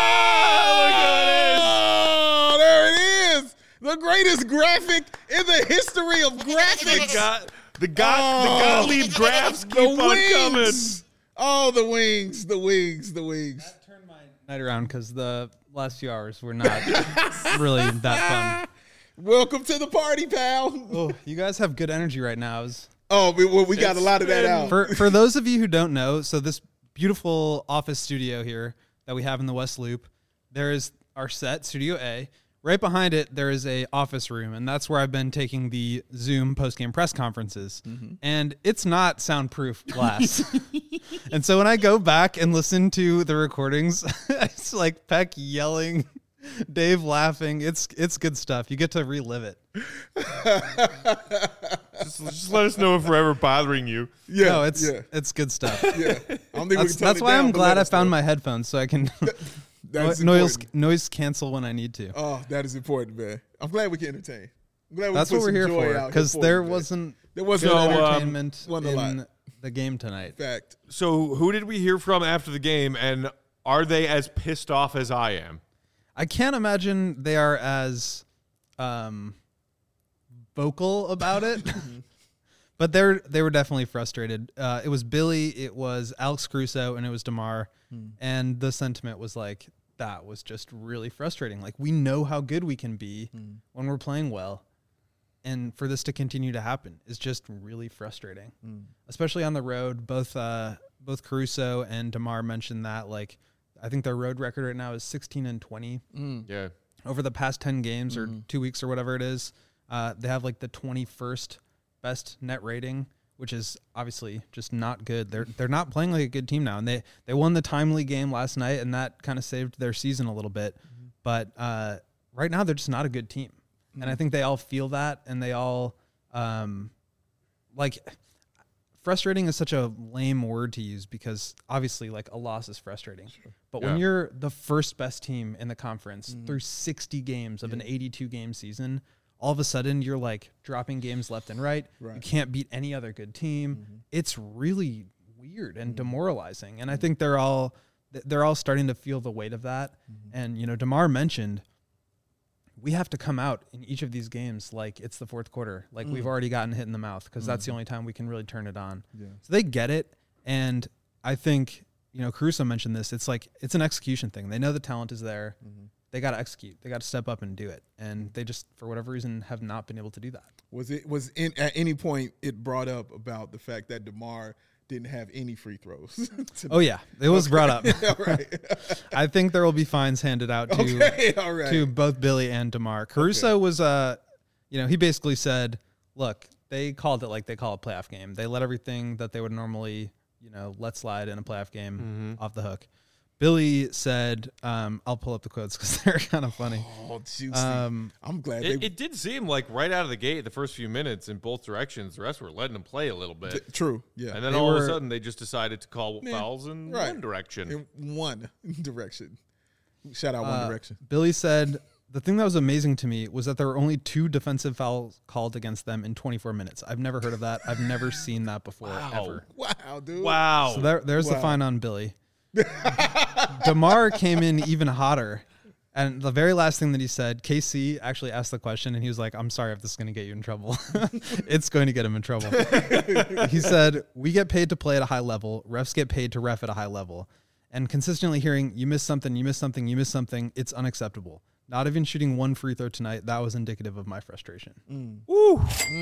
Oh, there it is. The greatest graphic in the history of graphics. The Gottlieb graphs keep on coming. Oh, the wings. That turned my night around because the last few hours were not really that fun. Welcome to the party, pal. Oh, you guys have good energy right now. We got a lot of that out. For those of you who don't know, so this beautiful office studio here that we have in the West Loop, there is our set, Studio A. Right behind it, there is a office room, and that's where I've been taking the Zoom post-game press conferences. And it's not soundproof glass. And so when I go back and listen to the recordings, it's like Peck yelling, Dave laughing. It's good stuff. You get to relive it. Just let us know if we're ever bothering you. Yeah, No, it's good stuff. yeah. I don't think we can tone That's it why down, I'm but glad let I us found know. my headphones so I can That's noise cancel when I need to. Oh, that is important, man. I'm glad we can entertain. I'm glad That's we what put we're some here joy for, out because here there you, man. wasn't There good wasn't entertainment wasn't a in lot. the game tonight. Fact. So who did we hear from after the game, and are they as pissed off as I am? I can't imagine they are as vocal about it, but they were definitely frustrated. It was Billy, it was Alex Caruso, and it was DeMar, and the sentiment was like, that was just really frustrating. Like, we know how good we can be when we're playing well, and for this to continue to happen is just really frustrating, especially on the road. Both Caruso and DeMar mentioned that, like, I think their road record right now is 16-20. Yeah. Over the past 10 games or 2 weeks or whatever it is, they have like the 21st best net rating, which is obviously just not good. They're not playing like a good team now, and they won the timely game last night, and that kind of saved their season a little bit. But right now, they're just not a good team, and I think they all feel that, and they all like. Frustrating is such a lame word to use because obviously, like, a loss is frustrating. But when you're the first best team in the conference through 60 games of an 82-game season, all of a sudden you're like dropping games left and right. You can't beat any other good team. It's really weird and demoralizing. And I think they're all starting to feel the weight of that. And, you know, DeMar mentioned we have to come out in each of these games like it's the fourth quarter, like we've already gotten hit in the mouth, because that's the only time we can really turn it on. So they get it. And I think, you know, Caruso mentioned this. It's like, it's an execution thing. They know the talent is there. They got to execute. They got to step up and do it. And they just, for whatever reason, have not been able to do that. At any point it brought up about the fact that DeMar didn't have any free throws? Oh yeah, it was brought up. All right. I think there will be fines handed out to both Billy and DeMar. Caruso was, you know, he basically said, look, they called it like they call a playoff game. They let everything that they would normally, let slide in a playoff game off the hook. Billy said, I'll pull up the quotes because they're kind of funny. Oh, juicy. I'm glad it did seem like right out of the gate, the first few minutes in both directions, the rest were letting them play a little bit. True, yeah. And then all of a sudden, they just decided to call fouls in one direction. In one direction. Shout out One Direction. Billy said, the thing that was amazing to me was that there were only 2 defensive fouls called against them in 24 minutes. I've never heard of that. I've never seen that before, ever. Wow, dude. Wow. So there's the fine on Billy. DeMar came in even hotter. And the very last thing that he said, KC actually asked the question, and he was like, I'm sorry if this is going to get you in trouble. It's going to get him in trouble. He said, we get paid to play at a high level. Refs get paid to ref at a high level. And consistently hearing, you missed something, you missed something, you missed something, it's unacceptable. Not even shooting 1 free throw tonight, that was indicative of my frustration. Woo.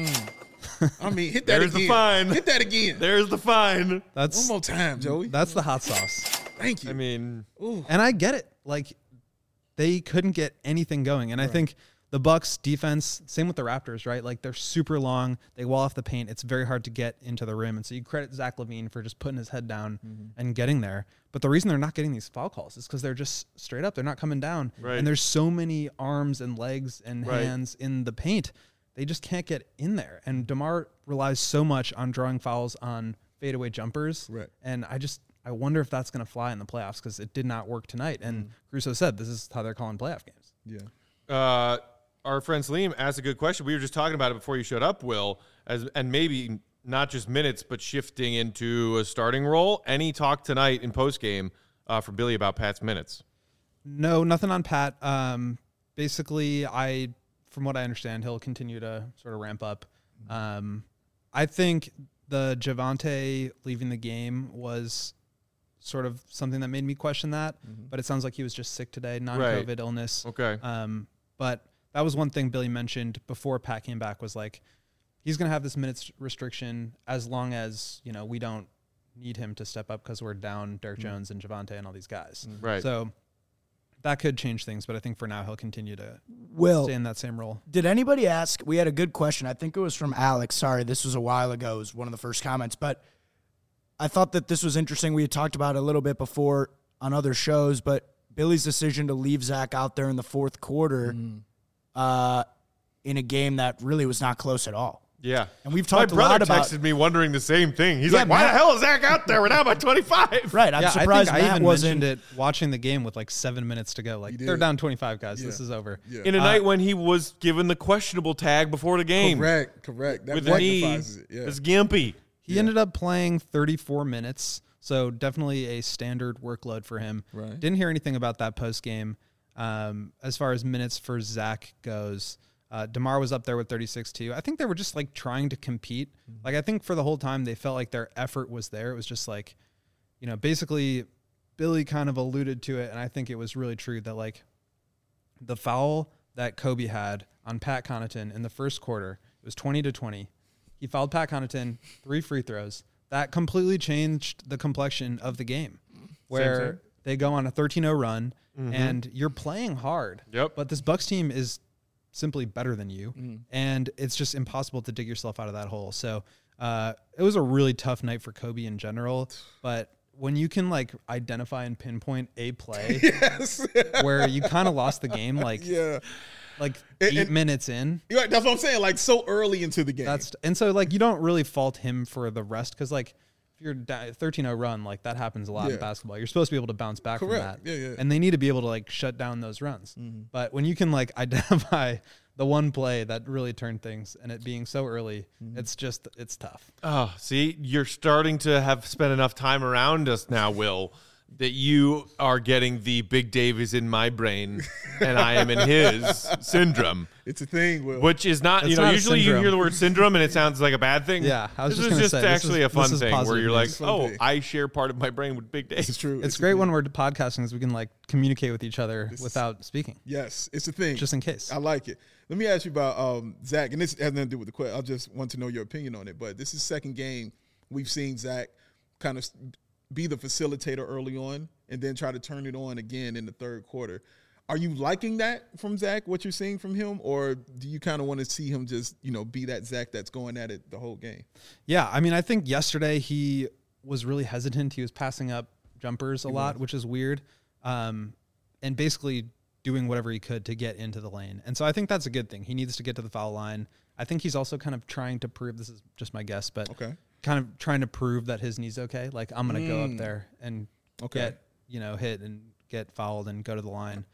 I mean, hit that There's again. the fine. Hit that again. There's the fine. That's One more time, Joey. That's the hot sauce. Thank you. I mean, And I get it. Like, they couldn't get anything going. And I think the Bucks defense, same with the Raptors, right? Like, they're super long. They wall off the paint. It's very hard to get into the rim. And so you credit Zach LaVine for just putting his head down and getting there. But the reason they're not getting these foul calls is because they're just straight up. They're not coming down. Right. And there's so many arms and legs and hands in the paint. They just can't get in there. And DeMar relies so much on drawing fouls on fadeaway jumpers. Right. And I wonder if that's going to fly in the playoffs because it did not work tonight. And Caruso said this is how they're calling playoff games. Yeah. our friend Salim asked a good question. We were just talking about it before you showed up, Will, and maybe not just minutes, but shifting into a starting role. Any talk tonight in postgame from Billy about Pat's minutes? No, nothing on Pat. Basically, from what I understand, he'll continue to sort of ramp up. I think the Javonte leaving the game was sort of something that made me question that, but it sounds like he was just sick today, non-COVID illness. Okay. But that was one thing Billy mentioned before Pat came back was like, he's going to have this minutes restriction as long as, we don't need him to step up because we're down Derrick Jones and Javonte and all these guys. Right. So that could change things, but I think for now he'll continue to stay in that same role. Did anybody ask? We had a good question. I think it was from Alex. Sorry, this was a while ago. It was one of the first comments, but I thought that this was interesting. We had talked about it a little bit before on other shows, but Billy's decision to leave Zach out there in the fourth quarter in a game that really was not close at all. Yeah. And we've talked a lot My brother about texted me wondering the same thing. He's Yeah, like, why Matt- the hell is Zach out there? We're down by 25. Right. I'm surprised I think Matt I even wasn't. mentioned it watching the game with like 7 minutes to go. Like, they're down 25, guys. This is over. Yeah. In a night when he was given the questionable tag before the game. Correct. That With the knee. magnifies it. Yeah. It's gimpy. He ended up playing 34 minutes, so definitely a standard workload for him. Right. Didn't hear anything about that post game. As far as minutes for Zach goes, DeMar was up there with 36 too. I think they were just like trying to compete. Like, I think for the whole time they felt like their effort was there. It was just like, basically Billy kind of alluded to it, and I think it was really true that like the foul that Kobe had on Pat Connaughton in the first quarter, it was 20-20. He fouled Pat Connaughton, 3 free throws. That completely changed the complexion of the game, where they go on a 13-0 run, and you're playing hard. Yep. But this Bucks team is simply better than you, and it's just impossible to dig yourself out of that hole. So it was a really tough night for Kobe in general, but when you can like identify and pinpoint a play where you kind of lost the game, like 8 minutes in. Right, that's what I'm saying. Like, so early into the game. And so like you don't really fault him for the rest, because like if you're 13-0 run, like that happens a lot in basketball. You're supposed to be able to bounce back from that. Yeah. And they need to be able to like shut down those runs. But when you can like identify the one play that really turned things, and it being so early, it's tough. Oh, see, you're starting to have spent enough time around us now, Will, that you are getting the Big Dave is in my brain and I am in his syndrome. It's a thing, Will. Which is not, It's not a usually you syndrome. hear the word syndrome and it sounds like a bad thing. Yeah, I was this just is gonna just say, this actually is- a fun this is thing where positive you're like, news. oh, Fun I share part of my brain with Big Dave. It's true. It's a great thing. when we're podcasting, is we can like communicate with each other without speaking, Yes, it's a thing. just in case. I like it. Let me ask you about Zach, and this has nothing to do with the question. I just want to know your opinion on it. But this is second game we've seen Zach kind of be the facilitator early on and then try to turn it on again in the third quarter. Are you liking that from Zach, what you're seeing from him? Or do you kind of want to see him just, be that Zach that's going at it the whole game? Yeah, I mean, I think yesterday he was really hesitant. He was passing up jumpers a lot, which is weird, and basically doing whatever he could to get into the lane. And so I think that's a good thing. He needs to get to the foul line. I think he's also kind of trying to prove, this is just my guess, but kind of trying to prove that his knee's okay. Like, I'm going to go up there and get, hit and get fouled and go to the line.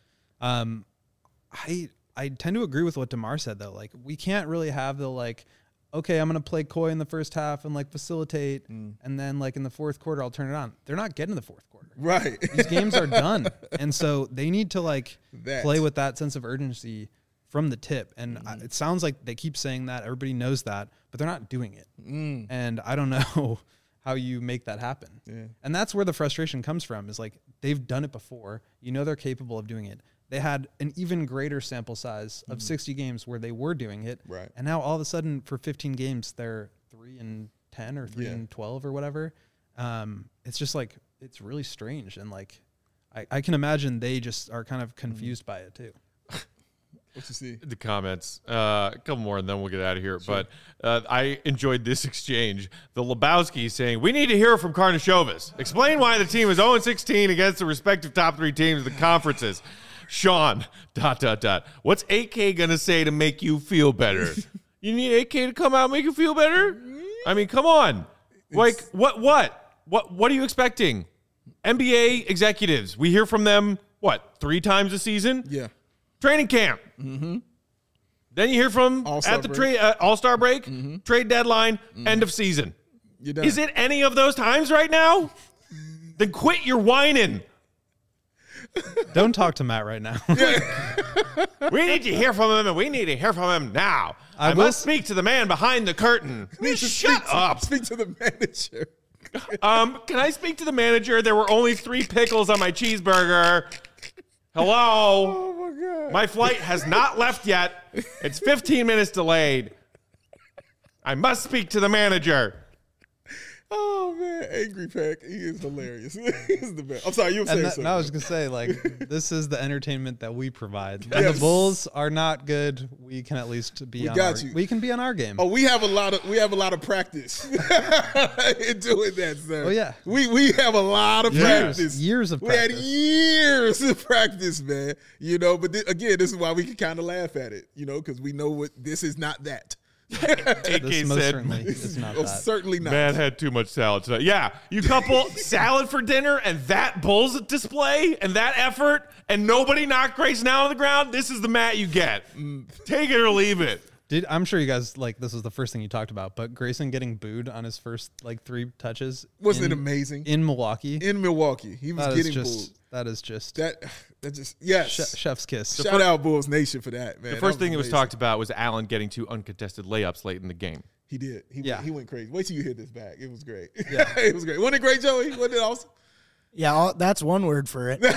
I tend to agree with what DeMar said, though. Like, we can't really have the, like, okay, I'm going to play coy in the first half and, like, facilitate, and then, like, in the fourth quarter, I'll turn it on. They're not getting to the fourth quarter. Right. These games are done. And so they need to, like, play with that sense of urgency from the tip. And it sounds like they keep saying that. Everybody knows that, but they're not doing it. And I don't know how you make that happen. Yeah. And that's where the frustration comes from, is, like, they've done it before. They're capable of doing it. They had an even greater sample size of 60 games where they were doing it. Right. And now all of a sudden for 15 games, they're 3-10 or 3-12 or whatever. It's just like, it's really strange. And like, I can imagine they just are kind of confused by it too. What you see? The comments. A couple more and then we'll get out of here. Sure. But I enjoyed this exchange. The Lebowski saying, we need to hear from Karnisovas. Explain why the team is 0-16 against the respective top 3 teams of the conferences. Sean, ... What's AK going to say to make you feel better? You need AK to come out and make you feel better? I mean, come on. Like, what are you expecting? NBA executives, we hear from them, 3 times a season? Yeah. Training camp. Mm-hmm. Then you hear from at the All-Star break, trade deadline, end of season. Is it any of those times right now? Then quit your whining. Don't talk to Matt right now. We need to hear from him, and we need to hear from him now. I must speak to the man behind the curtain. Shut up. Speak to the manager. Can I speak to the manager? There were only 3 pickles on my cheeseburger. Hello? Oh, my God. My flight has not left yet. It's 15 minutes delayed. I must speak to the manager. Oh, man. Angry Pack. He is hilarious. He's the best. I'm sorry. You were saying something. I was going to say, like, this is the entertainment that we provide. When the Bulls are not good, we can at least be we can be on our game. Oh, we have a lot of practice in doing that, sir. Oh, yeah. We have a lot of practice. Years of practice. We had years of practice, man. But again, this is why we can kind of laugh at it, because we know this is not that. AK This said, certainly is not that. Certainly not. Man had too much salad tonight. Yeah, you couple salad for dinner and that Bulls display and that effort and nobody knocked Grayson out on the ground. This is the Matt you get. Take it or leave it. I'm sure you guys, like, this was the first thing you talked about, but Grayson getting booed on his first, 3 touches. Wasn't it amazing? In Milwaukee. He was getting booed. That is just... yes. Chef's kiss. Shout out Bulls Nation for that, man. The first thing that was talked about was Allen getting 2 uncontested layups late in the game. He did. He went crazy. Wait till you hear this back. It was great. Yeah. It was great. Wasn't it great, Joey? Wasn't it awesome? Yeah, that's one word for it.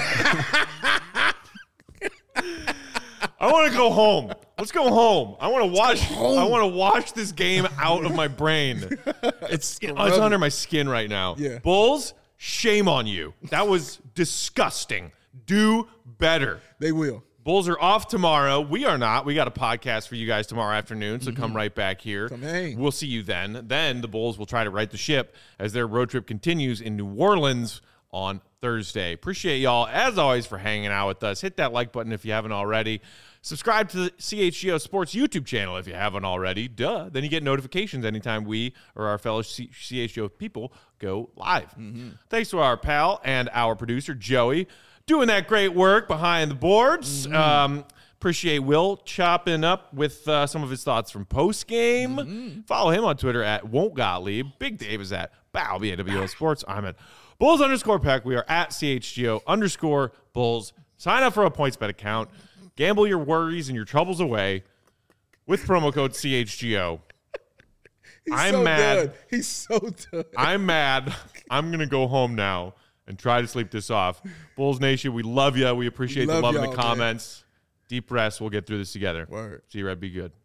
I want to go home. Let's go home. I want to wash this game out of my brain. It's under my skin right now. Yeah. Bulls, shame on you. That was disgusting. Do better. They will. Bulls are off tomorrow. We are not. We got a podcast for you guys tomorrow afternoon, so come right back here. Come hang. We'll see you then. Then the Bulls will try to right the ship as their road trip continues in New Orleans on Thursday. Appreciate y'all, as always, for hanging out with us. Hit that like button if you haven't already. Subscribe to the CHGO Sports YouTube channel if you haven't already. Duh. Then you get notifications anytime we or our fellow CHGO people go live. Thanks to our pal and our producer, Joey, doing that great work behind the boards. Appreciate Will chopping up with some of his thoughts from post-game. Follow him on Twitter at Won'tGottlieb. Big Dave is at Bow, BAWO Sports. I'm at Bulls_Peck. We are at CHGO_Bulls. Sign up for a PointsBet account. Gamble your worries and your troubles away with promo code CHGO. I'm mad. He's so good. I'm mad. I'm going to go home now and try to sleep this off. Bulls Nation, we love you. We appreciate the love in the comments. Man. Deep breaths. We'll get through this together. Word. See you, Red. Be good.